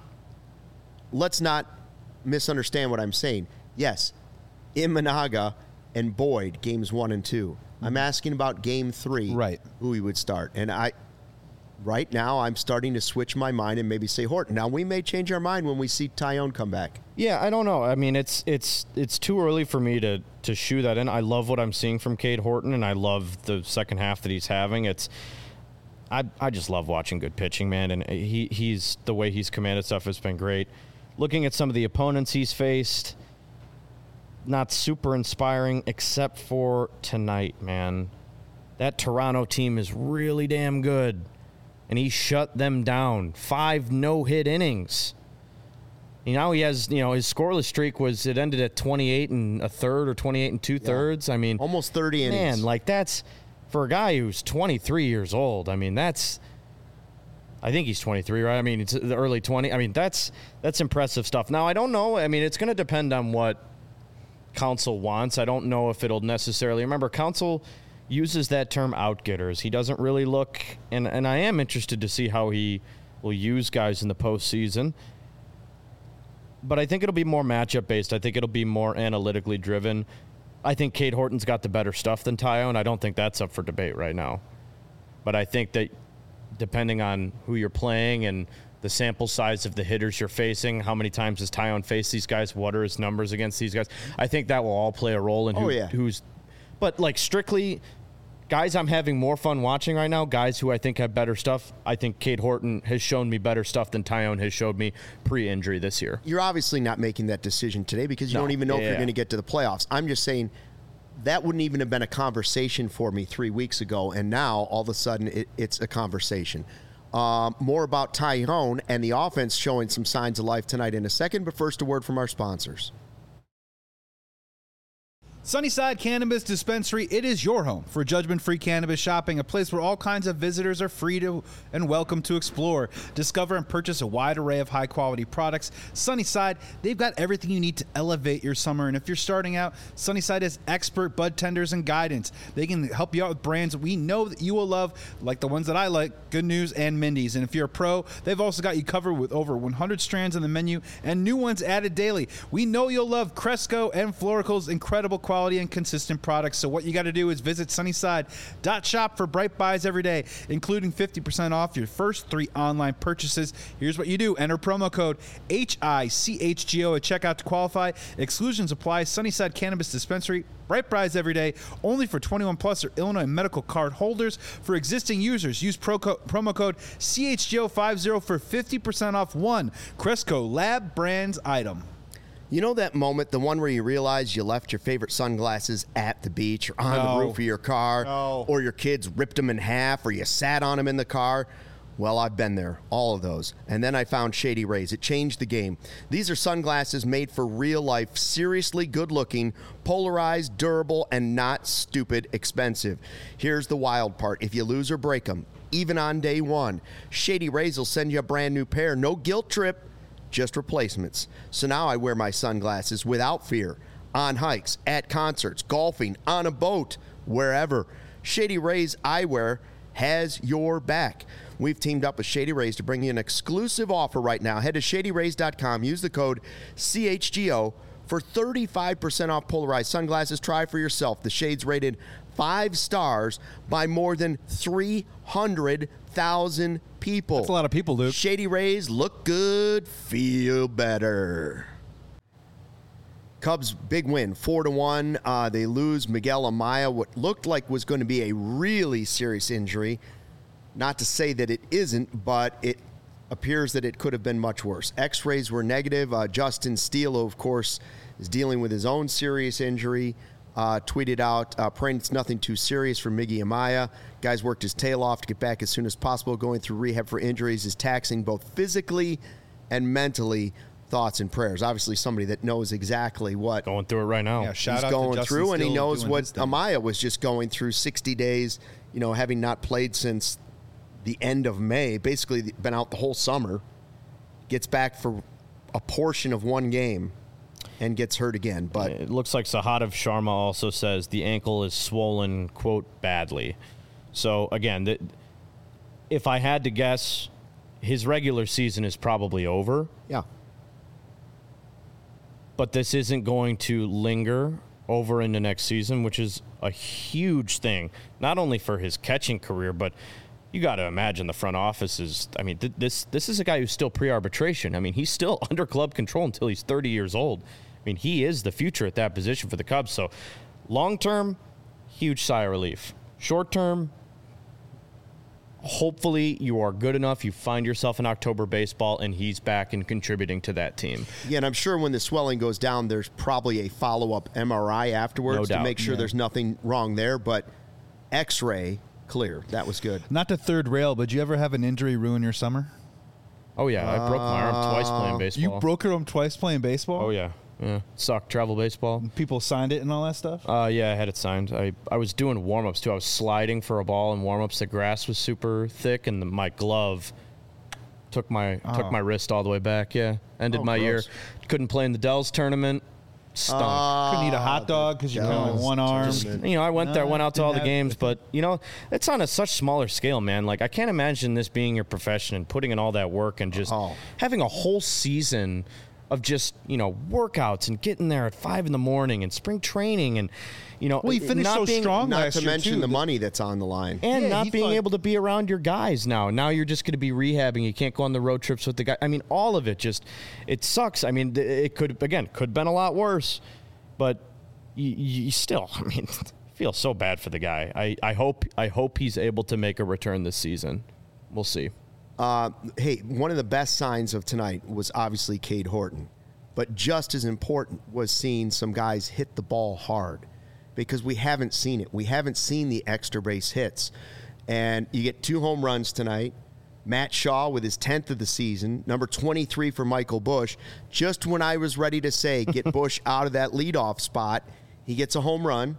let's not misunderstand what I'm saying. Yes, Imanaga and Boyd, games one and two. I'm asking about game three, right? Who he would start. And I, right now, I'm starting to switch my mind and maybe say Horton. Now, we may change our mind when we see Taillon come back. Yeah, I don't know. I mean, it's it's it's too early for me to to shoe that in. I love what I'm seeing from Cade Horton, and I love the second half that he's having. It's I I just love watching good pitching, man, and he he's the way he's commanded stuff has been great. Looking at some of the opponents he's faced, not super inspiring, except for tonight, man. That Toronto team is really damn good, and he shut them down. Five no-hit innings. Now he has, you know, his scoreless streak was, it ended at twenty-eight and a third or twenty-eight and two thirds. I mean, almost thirty innings. Man, like that's, for a guy who's twenty-three years old, I mean, that's, I think he's twenty-three, right? I mean, it's the early twenty. I mean, that's, that's impressive stuff. Now, I don't know. I mean, it's going to depend on what Counsell wants. I don't know if it'll necessarily, remember, Counsell uses that term outgetters. He doesn't really look, and, and I am interested to see how he will use guys in the postseason. But I think it'll be more matchup based. I think it'll be more analytically driven. I think Cade Horton's got the better stuff than Tyone. I don't think that's up for debate right now. But I think that depending on who you're playing and the sample size of the hitters you're facing, how many times has Tyone faced these guys, what are his numbers against these guys, I think that will all play a role in who, oh, yeah. who's – but, like, strictly – guys I'm having more fun watching right now, guys who I think have better stuff, I think Cade Horton has shown me better stuff than Tyone has showed me pre-injury this year. You're obviously not making that decision today because you No. don't even know Yeah, if you're yeah. going to get to the playoffs. I'm just saying that wouldn't even have been a conversation for me three weeks ago, and now all of a sudden it, it's a conversation. Um, more about Tyone and the offense showing some signs of life tonight in a second, but first a word from our sponsors. Sunnyside Cannabis Dispensary, it is your home for judgment-free cannabis shopping, a place where all kinds of visitors are free to and welcome to explore, discover, and purchase a wide array of high-quality products. Sunnyside, they've got everything you need to elevate your summer, and if you're starting out, Sunnyside has expert bud tenders and guidance. They can help you out with brands we know that you will love, like the ones that I like, Good News and Mindy's. And if you're a pro, they've also got you covered with over one hundred strands on the menu and new ones added daily. We know you'll love Cresco and Florical's incredible quality Quality and consistent products. So what you got to do is visit Sunnyside dot shop for bright buys every day, including fifty percent off your first three online purchases. Here's what you do. Enter promo code H I C H G O at checkout to qualify. Exclusions apply. Sunnyside Cannabis Dispensary. Bright buys every day. Only for twenty-one plus or Illinois medical card holders. For existing users, use pro co- promo code C H G O fifty for fifty percent off one Cresco Lab Brands item. You know that moment, the one where you realize you left your favorite sunglasses at the beach or on No. the roof of your car, No. or your kids ripped them in half, or you sat on them in the car? Well, I've been there, all of those. And then I found Shady Rays. It changed the game. These are sunglasses made for real life, seriously good-looking, polarized, durable, and not stupid expensive. Here's the wild part. If you lose or break them, even on day one, Shady Rays will send you a brand new pair. No guilt trip. Just replacements. So now I wear my sunglasses without fear on hikes, at concerts, golfing, on a boat, wherever. Shady Rays Eyewear has your back. We've teamed up with Shady Rays to bring you an exclusive offer right now. Head to shady rays dot com. Use the code C H G O for thirty-five percent off polarized sunglasses. Try for yourself. The shades rated five stars by more than three hundred thousand people. That's a lot of people, Luke. Shady Rays, look good, feel better. Cubs big win, four to one. Uh, they lose Miguel Amaya, what looked like was going to be a really serious injury. Not to say that it isn't, but it appears that it could have been much worse. X-rays were negative. Uh, Justin Steele, of course, is dealing with his own serious injury. Uh, tweeted out, uh, praying it's nothing too serious for Miggy Amaya. Guy's worked his tail off to get back as soon as possible. Going through rehab for injuries is taxing both physically and mentally. Thoughts and prayers. Obviously, somebody that knows exactly what Going through it right now. Yeah, shout he's out going to Justin through, and he Steele knows doing what his thing. Amaya was just going through sixty days, you know, having not played since the end of May, basically been out the whole summer, gets back for a portion of one game and gets hurt again. But It looks like Sahadev Sharma also says the ankle is swollen, quote, badly. So, again, th- if I had to guess, his regular season is probably over, yeah, but this isn't going to linger over into next season, which is a huge thing, not only for his catching career, but you got to imagine the front office is, I mean, th- this this is a guy who's still pre-arbitration. I mean, he's still under club control until he's thirty years old. I mean, he is the future at that position for the Cubs. So long-term, huge sigh of relief. Short-term, hopefully you are good enough, you find yourself in October baseball, and he's back and contributing to that team. yeah, and I'm sure when the swelling goes down, there's probably a follow-up M R I afterwards No to doubt. make sure Yeah. there's nothing wrong there. But X-ray clear, that was good. Not to third rail, but did you ever have an injury ruin your summer? Oh, yeah, I broke my arm twice playing baseball. You broke your arm twice playing baseball? Oh, yeah. Yeah. Sucked travel baseball. People signed it and all that stuff? Uh, yeah, I had it signed. I, I was doing warm-ups, too. I was sliding for a ball in warm-ups. The grass was super thick, and the, my glove took my Oh. took my wrist all the way back, yeah. Ended Oh, my year. gross. Couldn't play in the Dells tournament. Stunk. Couldn't eat a hot dog because you're Dells kind of one arm. tournament. You know, I went there, No, went out to all the didn't have- games, but, you know, it's on a such smaller scale, man. Like, I can't imagine this being your profession and putting in all that work and just Oh. having a whole season of just, you know, workouts and getting there at five in the morning and spring training and, you know, Well, he finished not so being, strong Not last to year, mention too. the money that's on the line. and Yeah, not he being thought- able to be around your guys now. Now you're just going to be rehabbing. You can't go on the road trips with the guy. I mean, all of it just, it sucks. I mean, th- it could, again, could have been a lot worse, but you, you still, I mean, feel so bad for the guy. I, I hope, I hope he's able to make a return this season. We'll see. Uh, hey, one of the best signs of tonight was obviously Cade Horton. But just as important was seeing some guys hit the ball hard, because we haven't seen it. We haven't seen the extra base hits. And you get two home runs tonight. Matt Shaw with his tenth of the season, number twenty-three for Michael Busch. Just when I was ready to say, get Busch out of that leadoff spot, he gets a home run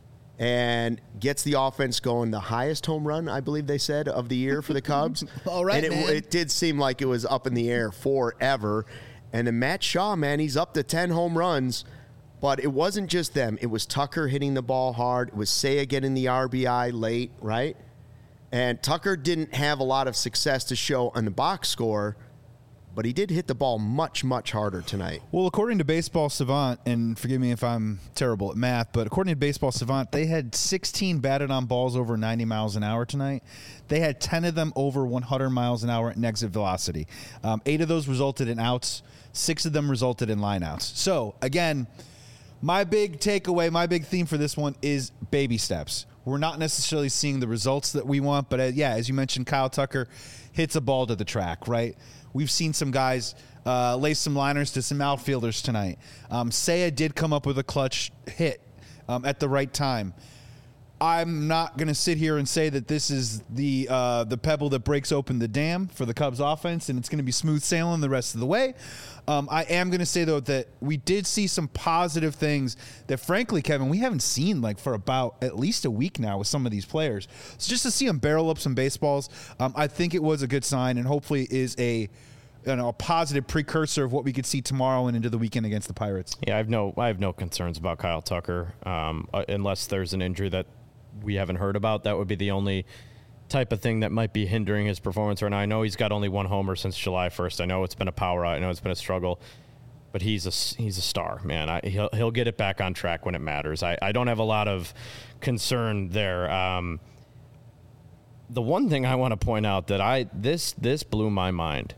and gets the offense going. The highest home run, I believe they said, of the year for the Cubs. All right, and it, man. it did seem like it was up in the air forever. And then Matt Shaw, man, he's up to ten home runs. But it wasn't just them. It was Tucker hitting the ball hard. It was Seiya getting the R B I late, right? And Tucker didn't have a lot of success to show on the box score, but he did hit the ball much, much harder tonight. Well, according to Baseball Savant, and forgive me if I'm terrible at math, but according to Baseball Savant, they had sixteen batted on balls over ninety miles an hour tonight. They had ten of them over one hundred miles an hour at an exit velocity. Um, eight of those resulted in outs. Six of them resulted in lineouts. So, again, my big takeaway, my big theme for this one is baby steps. We're not necessarily seeing the results that we want, but uh, yeah, as you mentioned, Kyle Tucker hits a ball to the track, right? We've seen some guys uh, lay some liners to some outfielders tonight. Um, Seiya did come up with a clutch hit um, at the right time. I'm not going to sit here and say that this is the uh, the pebble that breaks open the dam for the Cubs offense and it's going to be smooth sailing the rest of the way. Um, I am going to say, though, that we did see some positive things that, frankly, Kevin, we haven't seen like for about at least a week now with some of these players. So just to see them barrel up some baseballs, um, I think it was a good sign and hopefully is a you know, a positive precursor of what we could see tomorrow and into the weekend against the Pirates. Yeah, I have no, I have no concerns about Kyle Tucker, um, uh, unless there's an injury that we haven't heard about. That would be the only type of thing that might be hindering his performance right now. I know he's got only one homer since July first. I know it's been a power out. I know it's been a struggle, but he's a he's a star, man. I, he'll he'll get it back on track when it matters. I, I don't have a lot of concern there. Um, the one thing I want to point out that I this this blew my mind.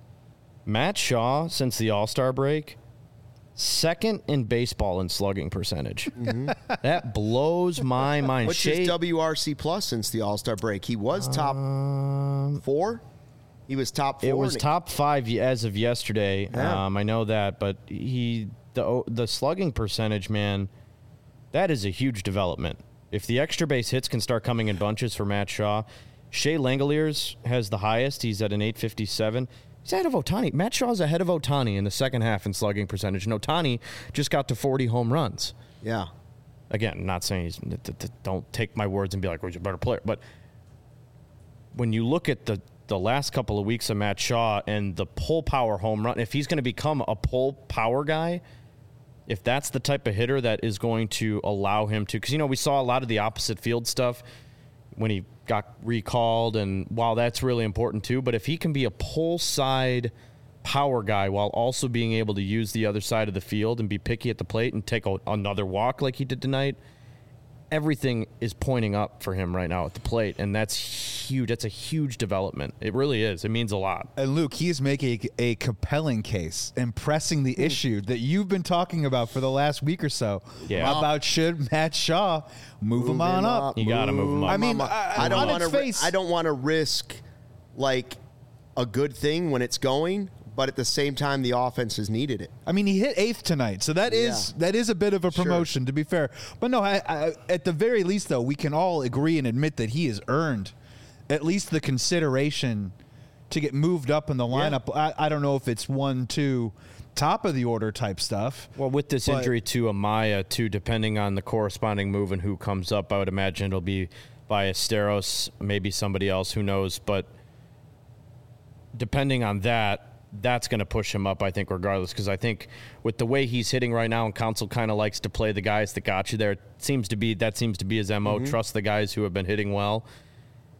Matt Shaw, since the All-Star break, second in baseball in slugging percentage. Mm-hmm. That blows my mind. What's Shea, his W R C plus since the All-Star break? He was top um, four? He was top four? It was top five as of yesterday. Yeah. Um, I know that, but he the the slugging percentage, man, that is a huge development. If the extra base hits can start coming in bunches for Matt Shaw, Shea Langoliers has the highest. He's at an eight fifty-seven. He's ahead of Ohtani. Matt Shaw's ahead of Ohtani in the second half in slugging percentage, and Ohtani just got to forty home runs. Yeah. Again, not saying he's th- th- don't take my words and be like, "Oh, he's a better player," but when you look at the the last couple of weeks of Matt Shaw and the pull power home run, if he's going to become a pull power guy, if that's the type of hitter that is going to allow him to, because you know we saw a lot of the opposite field stuff when he got recalled, and while that's really important too, but if he can be a pull side power guy while also being able to use the other side of the field and be picky at the plate and take a, another walk like he did tonight, everything is pointing up for him right now at the plate, and that's huge. That's a huge development. It really is. It means a lot. And Luke, he is making a compelling case and pressing the issue that you've been talking about for the last week or so. Yeah. About should Matt Shaw move, Move him on him up? up. You got to move him up. I mean, I, uh, I don't on want its to. face- I don't want to risk like a good thing when it's going, but at the same time, the offense has needed it. I mean, he hit eighth tonight, so that is Yeah. that is a bit of a Sure. promotion, to be fair. But no, I, I, at the very least, though, we can all agree and admit that he has earned at least the consideration to get moved up in the lineup. I, I don't know if it's one, two, top of the order type stuff. Well, with this But- injury to Amaya, too, depending on the corresponding move and who comes up, I would imagine it'll be Ballesteros, maybe somebody else, who knows. But depending on that, that's going to push him up, I think, regardless, because I think with the way he's hitting right now, and Counsell kind of likes to play the guys that got you there, it seems to be that seems to be his M O. Mm-hmm. Trust the guys who have been hitting well.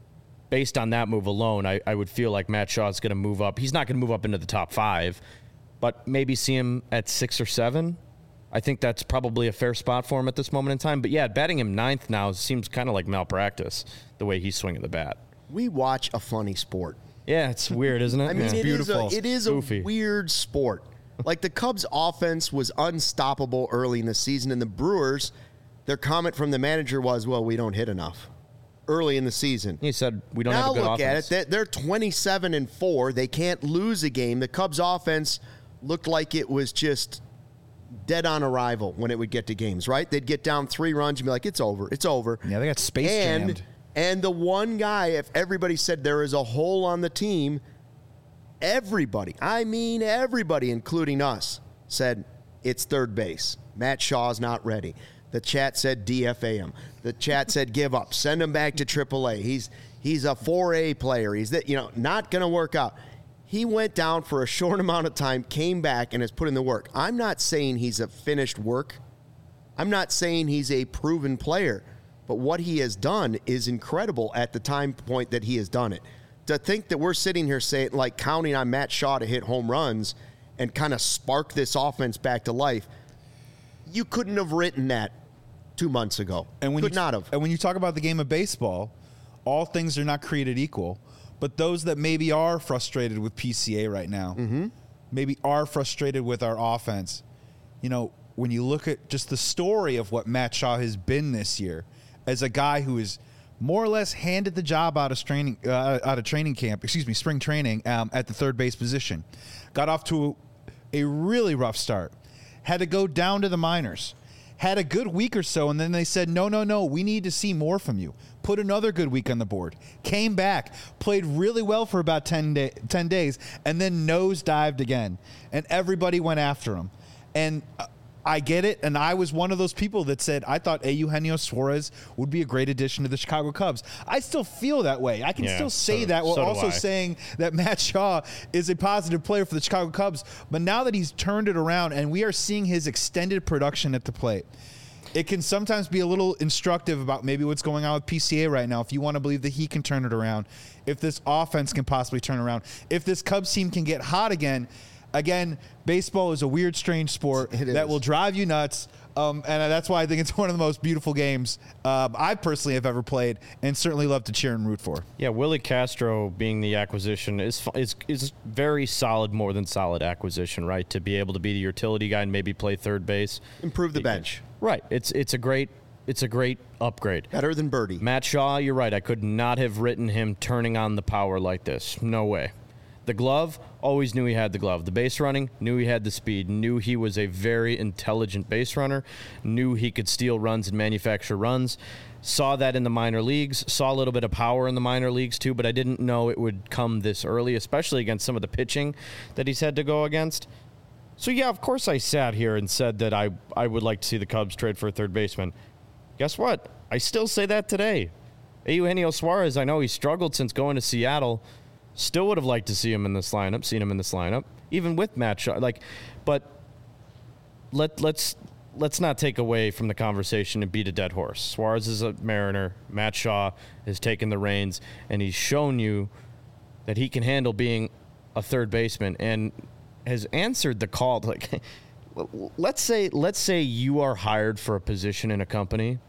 Based on that move alone, I, I would feel like Matt Shaw is going to move up. He's not going to move up into the top five, but maybe see him at six or seven. I think that's probably a fair spot for him at this moment in time. But yeah, batting him ninth now seems kind of like malpractice, the way he's swinging the bat. We watch a funny sport. Yeah, it's weird, isn't it? I mean, yeah. it beautiful. is a, it is Goofy. a weird sport. Like the Cubs' offense was unstoppable early in the season, and the Brewers, their comment from the manager was, well, we don't hit enough early in the season. He said we don't now have a good look offense. at it. They're twenty-seven and four. They can't lose a game. The Cubs' offense looked like it was just dead on arrival when it would get to games, right? They'd get down three runs and be like, it's over, it's over. Yeah, they got space and, jammed. And the one guy, if everybody said there is a hole on the team, everybody, I mean everybody, including us, said it's third base. Matt Shaw's not ready. The chat said D F A him. The chat said give up. Send him back to triple A. He's he's a four A player. He's that, you know, not going to work out. He went down for a short amount of time, came back, and has put in the work. I'm not saying he's a finished work. I'm not saying he's a proven player. But what he has done is incredible at the time point that he has done it. To think that we're sitting here saying, like, counting on Matt Shaw to hit home runs and kind of spark this offense back to life, you couldn't have written that two months ago. And when Could you, not have. And when you talk about the game of baseball, all things are not created equal. But those that maybe are frustrated with P C A right now, mm-hmm. maybe are frustrated with our offense, you know, when you look at just the story of what Matt Shaw has been this year, as a guy who is more or less handed the job out of training, uh, out of training camp, excuse me, spring training um, at the third base position, got off to a, a really rough start, had to go down to the minors, had a good week or so, and then they said, no, no, no, we need to see more from you. Put another good week on the board. Came back, played really well for about ten, day, ten days, and then nosedived again. And everybody went after him. And uh, I get it, and I was one of those people that said I thought Eugenio Suarez would be a great addition to the Chicago Cubs. I still feel that way. I can Yeah, still say so- that while so do also I. saying that Matt Shaw is a positive player for the Chicago Cubs. But now that he's turned it around and we are seeing his extended production at the plate, it can sometimes be a little instructive about maybe what's going on with P C A right now. If you want to believe that he can turn it around, if this offense can possibly turn around, if this Cubs team can get hot again. Again, baseball is a weird, strange sport It that is. will drive you nuts. Um, and that's why I think it's one of the most beautiful games um, I personally have ever played and certainly love to cheer and root for. Yeah, Willie Castro being the acquisition is fu- is is very solid, more than solid acquisition, right? To be able to be the utility guy and maybe play third base, Improve the You can- bench. Right. It's it's a great it's a great upgrade. Better than Birdie. Matt Shaw, you're right. I could not have written him turning on the power like this. No way. The glove, always knew he had the glove. The base running, knew he had the speed, knew he was a very intelligent base runner, knew he could steal runs and manufacture runs. Saw that in the minor leagues, saw a little bit of power in the minor leagues too, but I didn't know it would come this early, especially against some of the pitching that he's had to go against. So, yeah, of course I sat here and said that I, I would like to see the Cubs trade for a third baseman. Guess what? I still say that today. Eugenio Suarez, I know he struggled since going to Seattle. Still would have liked to see him in this lineup, seen him in this lineup, even with Matt Shaw. Like, but let let's let's not take away from the conversation and beat a dead horse. Suarez is a Mariner. Matt Shaw has taken the reins, and he's shown you that he can handle being a third baseman and has answered the call. Like, let's say let's say you are hired for a position in a company.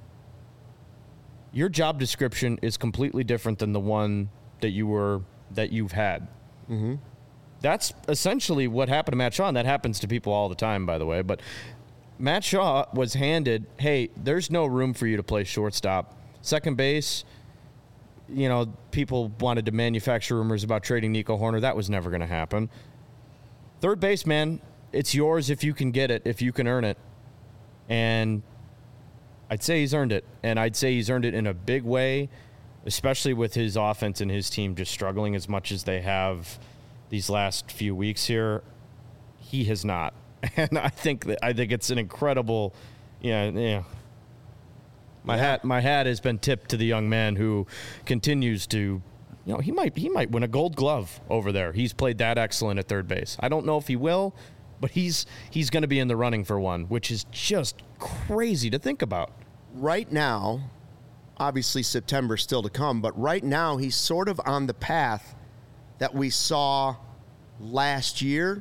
Your job description is completely different than the one that you were that you've had. Mm-hmm. That's essentially what happened to Matt Shaw, and that happens to people all the time, by the way. But Matt Shaw was handed, hey, there's no room for you to play shortstop. Second base, you know, people wanted to manufacture rumors about trading Nico Horner. That was never going to happen. Third base, man, it's yours if you can get it, if you can earn it. And I'd say he's earned it, and I'd say he's earned it in a big way, especially with his offense and his team just struggling as much as they have these last few weeks here. He has not, and I think that I think it's an incredible, yeah, yeah. My Yeah. hat, my hat has been tipped to the young man who continues to, you know, he might he might win a Gold Glove over there. He's played that excellent at third base. I don't know if he will, but he's he's going to be in the running for one, which is just crazy to think about. Right now, obviously September still to come, but right now he's sort of on the path that we saw last year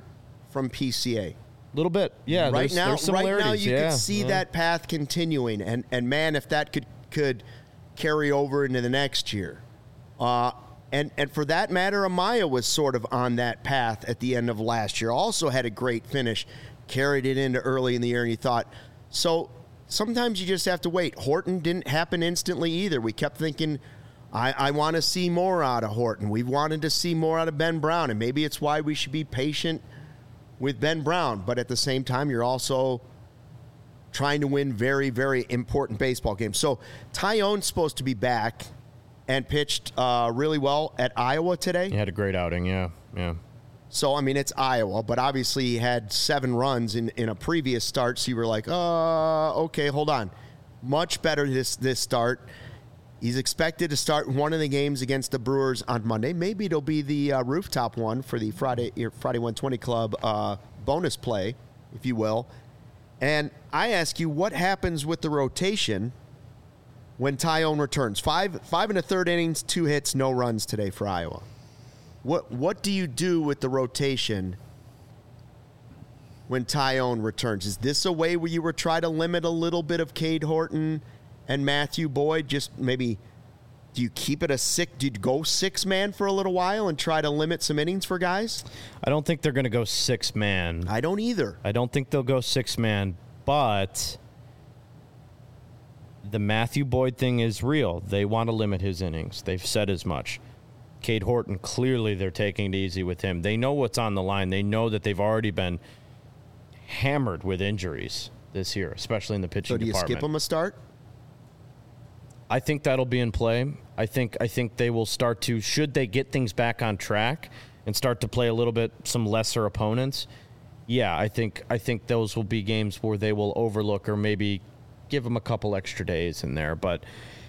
from P C A. A little bit, yeah. Right there's, now, there's right now similarities, you yeah, could see yeah. that path continuing, and and man, if that could could carry over into the next year, uh, and and for that matter, Amaya was sort of on that path at the end of last year. Also had a great finish, carried it into early in the year, and you thought so. Sometimes you just have to wait. Horton didn't happen instantly either. We kept thinking, I, I want to see more out of Horton. We've wanted to see more out of Ben Brown, and maybe it's why we should be patient with Ben Brown. But at the same time, you're also trying to win very, very important baseball games. So Tyone's supposed to be back and pitched uh, really well at Iowa today. He had a great outing, yeah, yeah. So, I mean, it's Iowa, but obviously he had seven runs in, in a previous start, so you were like, uh, okay, hold on. Much better this this start. He's expected to start one of the games against the Brewers on Monday. Maybe it'll be the uh, rooftop one for the Friday Friday one twenty Club uh, bonus play, if you will. And I ask you, what happens with the rotation when Tyone returns? Five, five and a third innings, two hits, no runs today for Iowa. What what do you do with the rotation when Tyone returns? Is this a way where you were trying to limit a little bit of Cade Horton and Matthew Boyd? Just maybe, do you keep it a six? Do you go six man for a little while and try to limit some innings for guys? I don't think they're going to go six man. I don't either. I don't think they'll go six man, but the Matthew Boyd thing is real. They want to limit his innings. They've said as much. Cade Horton, clearly they're taking it easy with him. They know what's on the line. They know that they've already been hammered with injuries this year, especially in the pitching So do you department. skip him a start? I think that'll be in play. I think I think they will start to, should they get things back on track and start to play a little bit some lesser opponents, yeah, I think I think those will be games where they will overlook or maybe give them a couple extra days in there. But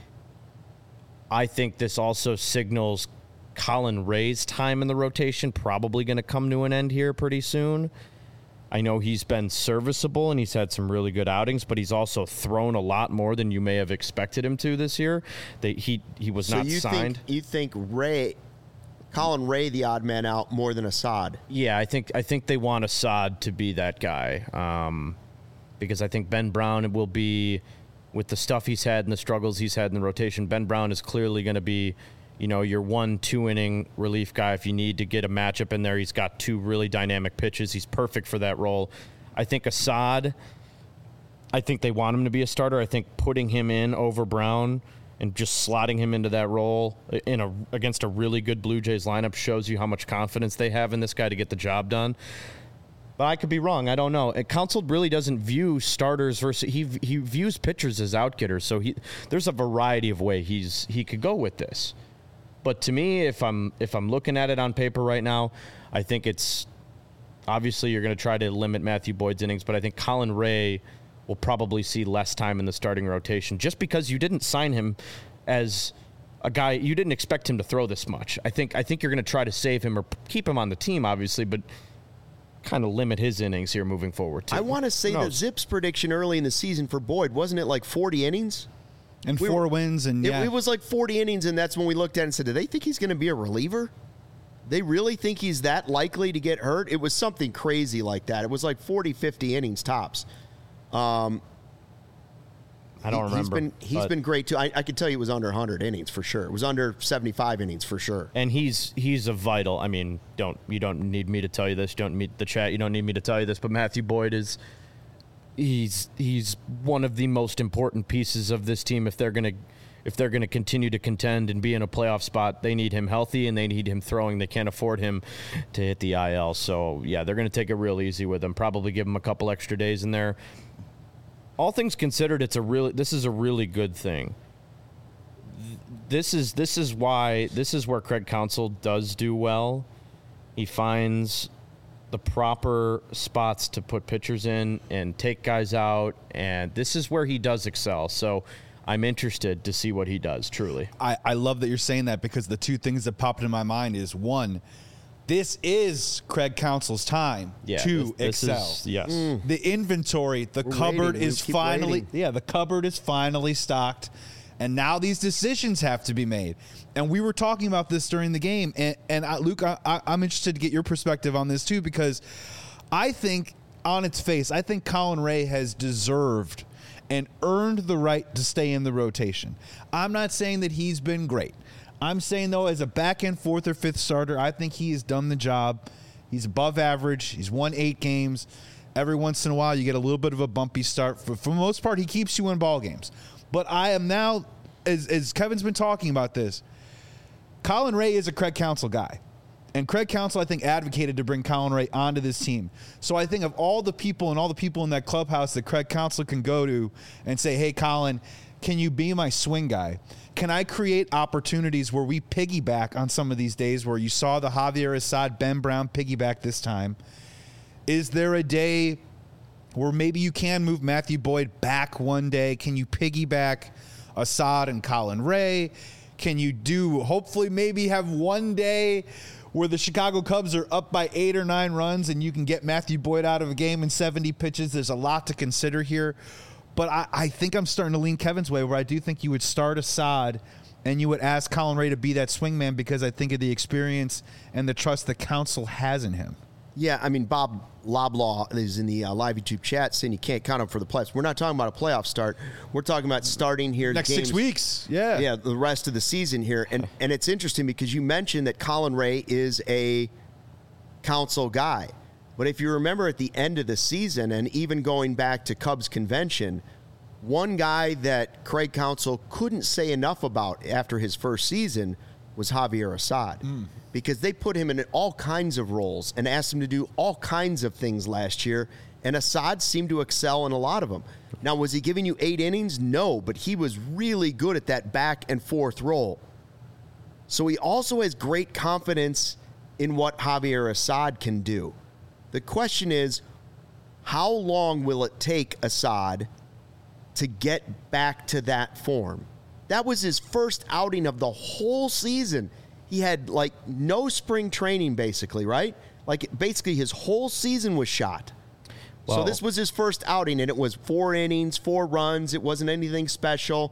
I think this also signals Colin Ray's time in the rotation probably going to come to an end here pretty soon. I know he's been serviceable and he's had some really good outings, but he's also thrown a lot more than you may have expected him to this year. They, he he was So not you signed. think you think Ray, Colin Ray, the odd man out more than Assad? Yeah, I think I think they want Assad to be that guy um, because I think Ben Brown will be, with the stuff he's had and the struggles he's had in the rotation, Ben Brown is clearly going to be, you know, your one, two inning relief guy. If you need to get a matchup in there, he's got two really dynamic pitches. He's perfect for that role. I think Assad, I think they want him to be a starter. I think putting him in over Brown and just slotting him into that role in a against a really good Blue Jays lineup shows you how much confidence they have in this guy to get the job done. But I could be wrong. I don't know. Counsell really doesn't view starters versus he he views pitchers as outgetters. So he there's a variety of way he's he could go with this. But to me, if I'm if I'm looking at it on paper right now, I think it's obviously you're going to try to limit Matthew Boyd's innings, but I think Colin Ray will probably see less time in the starting rotation just because you didn't sign him as a guy you didn't expect him to throw this much. I think I think you're going to try to save him or keep him on the team, obviously, but kind of limit his innings here moving forward too. I want to say the Zips prediction early in the season for Boyd, wasn't it like forty innings? And We four were- wins, and It, yeah. it was like forty innings, and that's when we looked at it and said, do they think he's going to be a reliever? They really think he's that likely to get hurt? It was something crazy like that. It was like forty, fifty innings tops. Um, I don't he- remember. He's been, he's but- been great, too. I, I could tell you it was under one hundred innings for sure. It was under seventy-five innings for sure. And he's he's a vital. I mean, don't you don't need me to tell you this. You don't need the chat. You don't need me to tell you this. But Matthew Boyd is he's he's one of the most important pieces of this team. If they're gonna if they're gonna continue to contend and be in a playoff spot, they need him healthy and they need him throwing. They can't afford him to hit the I L. So yeah, they're gonna take it real easy with him. Probably give him a couple extra days in there. All things considered, it's a really this is a really good thing. This is this is why this is where Craig Counsell does do well. He finds the proper spots to put pitchers in and take guys out, and this is where he does excel. So I'm interested to see what he does, truly. I, I love that you're saying that because the two things that popped into my mind is one, this is Craig Counsell's time Yeah, to this, this excel. is- yes. The inventory, the We're cupboard waiting. is We keep finally, waiting. yeah, the cupboard is finally stocked. And now these decisions have to be made. And we were talking about this during the game. And, and I, Luke, I, I, I'm interested to get your perspective on this too, because I think on its face, I think Colin Ray has deserved and earned the right to stay in the rotation. I'm not saying that he's been great. I'm saying, though, as a back-end fourth or fifth starter, I think he has done the job. He's above average. He's won eight games. Every once in a while, you get a little bit of a bumpy start. For, for the most part, he keeps you in ball games. But I am now, as, as Kevin's been talking about this, Colin Ray is a Craig Counsell guy. And Craig Counsell, I think, advocated to bring Colin Ray onto this team. So I think of all the people and all the people in that clubhouse that Craig Counsell can go to and say, hey, Colin, can you be my swing guy? Can I create opportunities where we piggyback on some of these days where you saw the Javier Assad, Ben Brown piggyback this time? Is there a day where maybe you can move Matthew Boyd back one day? Can you piggyback Assad and Colin Ray? Can you do, hopefully maybe have one day where the Chicago Cubs are up by eight or nine runs and you can get Matthew Boyd out of a game in seventy pitches? There's a lot to consider here. But I, I think I'm starting to lean Kevin's way, where I do think you would start Assad and you would ask Colin Ray to be that swingman because I think of the experience and the trust that Counsell has in him. Yeah, I mean, Bob Loblaw is in the uh, live YouTube chat saying you can't count him for the playoffs. We're not talking about a playoff start. We're talking about starting here. Next games, six weeks. Yeah. Yeah, the rest of the season here. And and it's interesting because you mentioned that Colin Ray is a Counsell guy. But if you remember at the end of the season and even going back to Cubs convention, one guy that Craig Counsell couldn't say enough about after his first season was Javier Assad. Mm. Because they put him in all kinds of roles and asked him to do all kinds of things last year, and Assad seemed to excel in a lot of them. Now, was he giving you eight innings? No, but he was really good at that back and forth role. So he also has great confidence in what Javier Assad can do. The question is, how long will it take Assad to get back to that form? That was his first outing of the whole season. He had, like, no spring training, basically, right? Like, basically his whole season was shot. Well, so this was his first outing, and it was four innings, four runs. It wasn't anything special.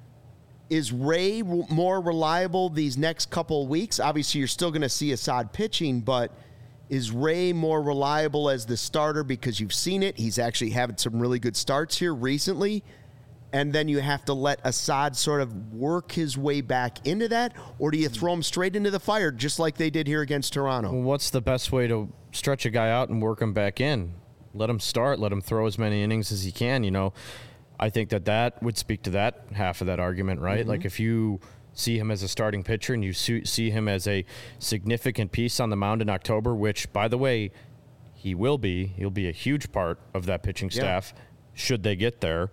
Is Ray more reliable these next couple of weeks? Obviously, you're still going to see Assad pitching, but is Ray more reliable as the starter because you've seen it? He's actually having some really good starts here recently. And then you have to let Assad sort of work his way back into that? Or do you throw him straight into the fire just like they did here against Toronto? Well, what's the best way to stretch a guy out and work him back in? Let him start. Let him throw as many innings as he can. You know, I think that that would speak to that half of that argument, right? Mm-hmm. Like if you see him as a starting pitcher and you see him as a significant piece on the mound in October, which, by the way, he will be. He'll be a huge part of that pitching staff yeah. should they get there.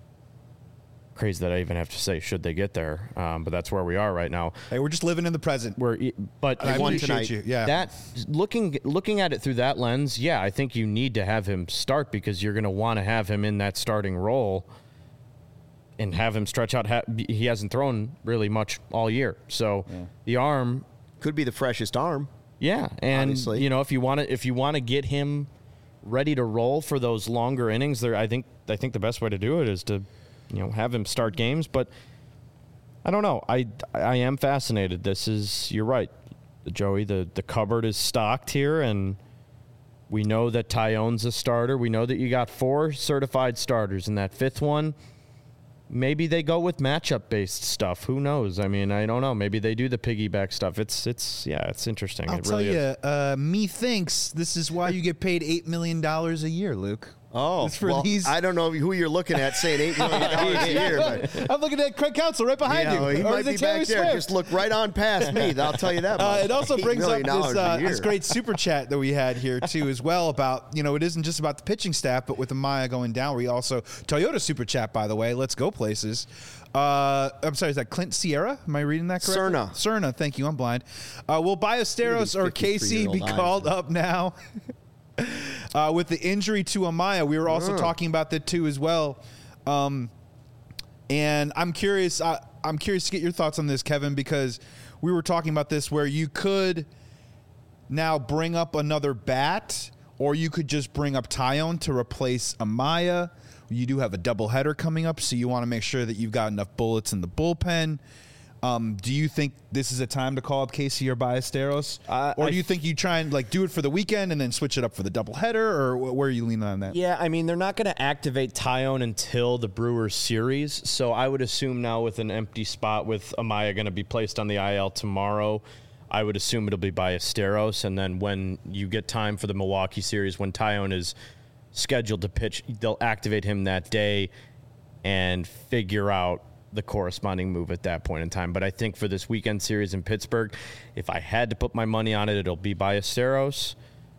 Crazy that I even have to say should they get there, um, but that's where we are right now. Hey, we're just living in the present. We're, but I appreciate you. Yeah, that looking looking at it through that lens, yeah, I think you need to have him start because you're going to want to have him in that starting role and have him stretch out. He hasn't thrown really much all year, so yeah. the arm could be the freshest arm. Yeah, and obviously. you know if you want to if you want to get him ready to roll for those longer innings, there I think I think the best way to do it is to. You know, have him start games, but I don't know. I, I am fascinated. This is, you're right, Joey, the, the cupboard is stocked here, and we know that Taillon's a starter. We know that you got four certified starters, and that fifth one, maybe they go with matchup-based stuff. Who knows? I mean, I don't know. Maybe they do the piggyback stuff. It's, it's yeah, it's interesting. I'll it tell really you, is. Uh, me thinks this is why you get paid eight million dollars a year, Luke. Oh, for well, these. I don't know who you're looking at saying eight million dollars a year. But, I'm looking at Craig Counsell right behind you. Know, you. He or might is be it Taylor back there. Swift? Just look right on past me. I'll tell you that much. Uh, it also brings up this, uh, a this great super chat that we had here, too, as well, about, you know, it isn't just about the pitching staff, but with Amaya going down, we also, Toyota super chat, by the way, let's go places. Uh, I'm sorry, is that Clint Sierra? Am I reading that correctly? Cerna. Cerna, thank you, I'm blind. Uh, will Ballesteros or Casey be called up now? Uh, with the injury to Amaya, we were also uh. talking about that too as well. Um, and I'm curious. I, I'm curious to get your thoughts on this, Kevin, because we were talking about this where you could now bring up another bat, or you could just bring up Taillon to replace Amaya. You do have a doubleheader coming up, so you want to make sure that you've got enough bullets in the bullpen. Um, do you think this is a time to call up Casey or Ballesteros? Uh, or I do you think you try and like do it for the weekend and then switch it up for the doubleheader? Or wh- where are you leaning on that? Yeah, I mean, they're not going to activate Tyone until the Brewers series. So I would assume now with an empty spot with Amaya going to be placed on the I L tomorrow, I would assume it'll be Ballesteros. And then when you get time for the Milwaukee series, when Tyone is scheduled to pitch, they'll activate him that day and figure out the corresponding move at that point in time. But I think for this weekend series in Pittsburgh, if I had to put my money on it, it'll be Ballesteros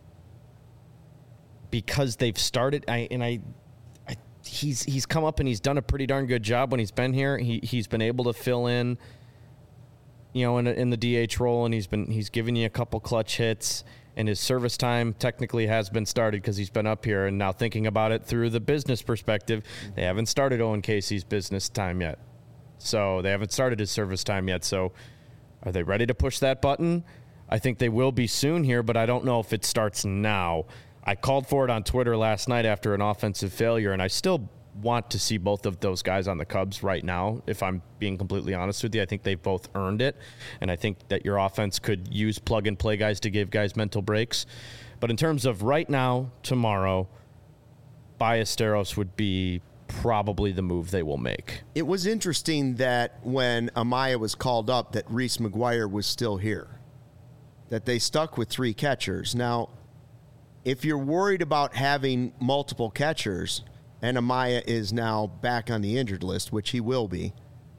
because they've started. I and I, I, he's he's come up and he's done a pretty darn good job when he's been here. He he's been able to fill in, you know, in, a, in the D H role, and he's been he's given you a couple clutch hits. And his service time technically has been started because he's been up here. And now thinking about it through the business perspective, they haven't started Owen Casey's business time yet. So they haven't started his service time yet. So are they ready to push that button? I think they will be soon here, but I don't know if it starts now. I called for it on Twitter last night after an offensive failure, and I still want to see both of those guys on the Cubs right now, if I'm being completely honest with you. I think they've both earned it, and I think that your offense could use plug-and-play guys to give guys mental breaks. But in terms of right now, tomorrow, Ballesteros would be probably the move they will make. It was interesting that when Amaya was called up that Reese McGuire was still here, that they stuck with three catchers. Now, if you're worried about having multiple catchers and Amaya is now back on the injured list, which he will be,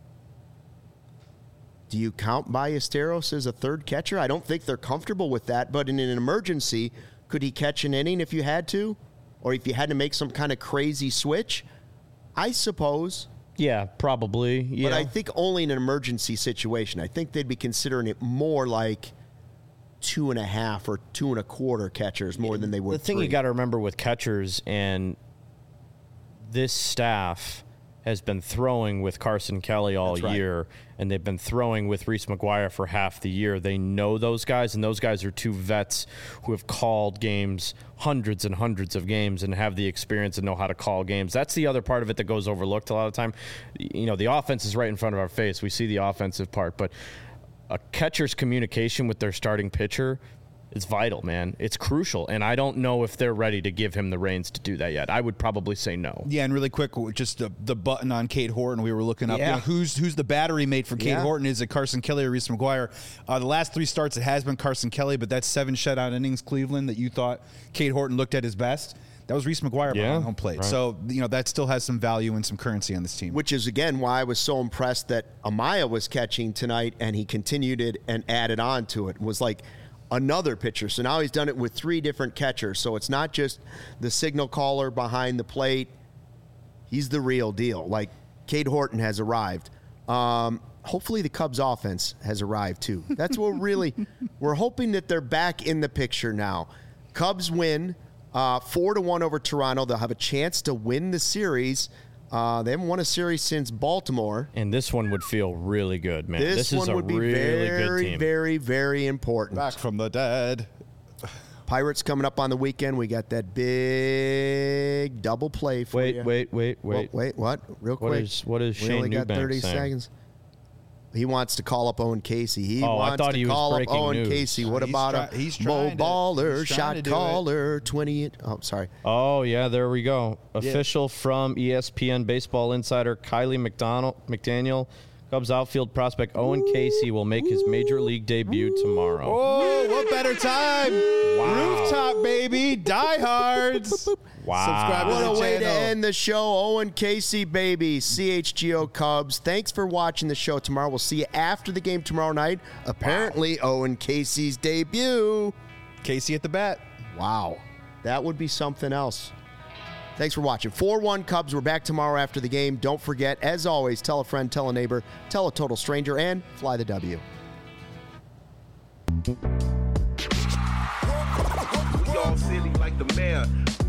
do you count Ballesteros as a third catcher? I don't think they're comfortable with that, but in an emergency, could he catch an inning if you had to? Or if you had to make some kind of crazy switch? I suppose. Yeah, probably. Yeah. But I think only in an emergency situation. I think they'd be considering it more like two and a half or two and a quarter catchers more than they would The thing three. you got to remember with catchers, and this staff has been throwing with Carson Kelly all That's right. year, and they've been throwing with Reese McGuire for half the year. They know those guys, and those guys are two vets who have called games, hundreds and hundreds of games, and have the experience and know how to call games. That's the other part of it that goes overlooked a lot of the time. You know, the offense is right in front of our face. We see the offensive part, but a catcher's communication with their starting pitcher, it's vital, man. It's crucial, and I don't know if they're ready to give him the reins to do that yet. I would probably say no. Yeah, and really quick, just the, the button on Cade Horton. We were looking up Yeah. you know, who's who's the battery mate for Cade Yeah. Horton. Is it Carson Kelly or Reese McGuire? Uh, the last three starts, it has been Carson Kelly, but that's seven shutout innings, Cleveland, that you thought Cade Horton looked at his best. That was Reese McGuire Yeah, behind home plate. right. So, you know, that still has some value and some currency on this team. Which is, again, why I was so impressed that Amaya was catching tonight and he continued it and added on to it. It was like another pitcher. So now he's done it with three different catchers. So it's not just the signal caller behind the plate. He's the real deal. Like, Cade Horton has arrived. Um, hopefully the Cubs offense has arrived too. That's what really, we're hoping that they're back in the picture now. Cubs win uh, four to one over Toronto. They'll have a chance to win the series. Uh, they haven't won a series since Baltimore. And this one would feel really good, man. This, This, is one a would be really good very, team. very, very important. Back from the dead. Pirates coming up on the weekend. We got that big double play for wait, you. wait, wait, Well, wait. wait, what? Real What quick. is- what is we Shane only got Eubanks thirty saying? seconds. He wants to call up Owen Casey. He Oh, I wants thought to he was call up breaking Owen news. Casey. What He's about try- a he's Mo trying to- Baller, he's trying shot to do it. caller, twenty? Oh, sorry. Oh, yeah, there we go. Official from E S P N Baseball Insider, Kylie McDonald, McDaniel. Cubs outfield prospect Owen Casey will make his major league debut tomorrow. Oh, what better time? Wow. Rooftop, baby. Diehards. Wow. Subscribe to What the a way to channel. end the show. Owen Casey, baby. C H G O Cubs. Thanks for watching the show tomorrow. We'll see you after the game tomorrow night. Apparently, Owen Casey's debut. Casey at the bat. Wow. That would be something else. Thanks for watching. four one Cubs. We're back tomorrow after the game. Don't forget, as always, tell a friend, tell a neighbor, tell a total stranger, and fly the W. We all silly like the mayor.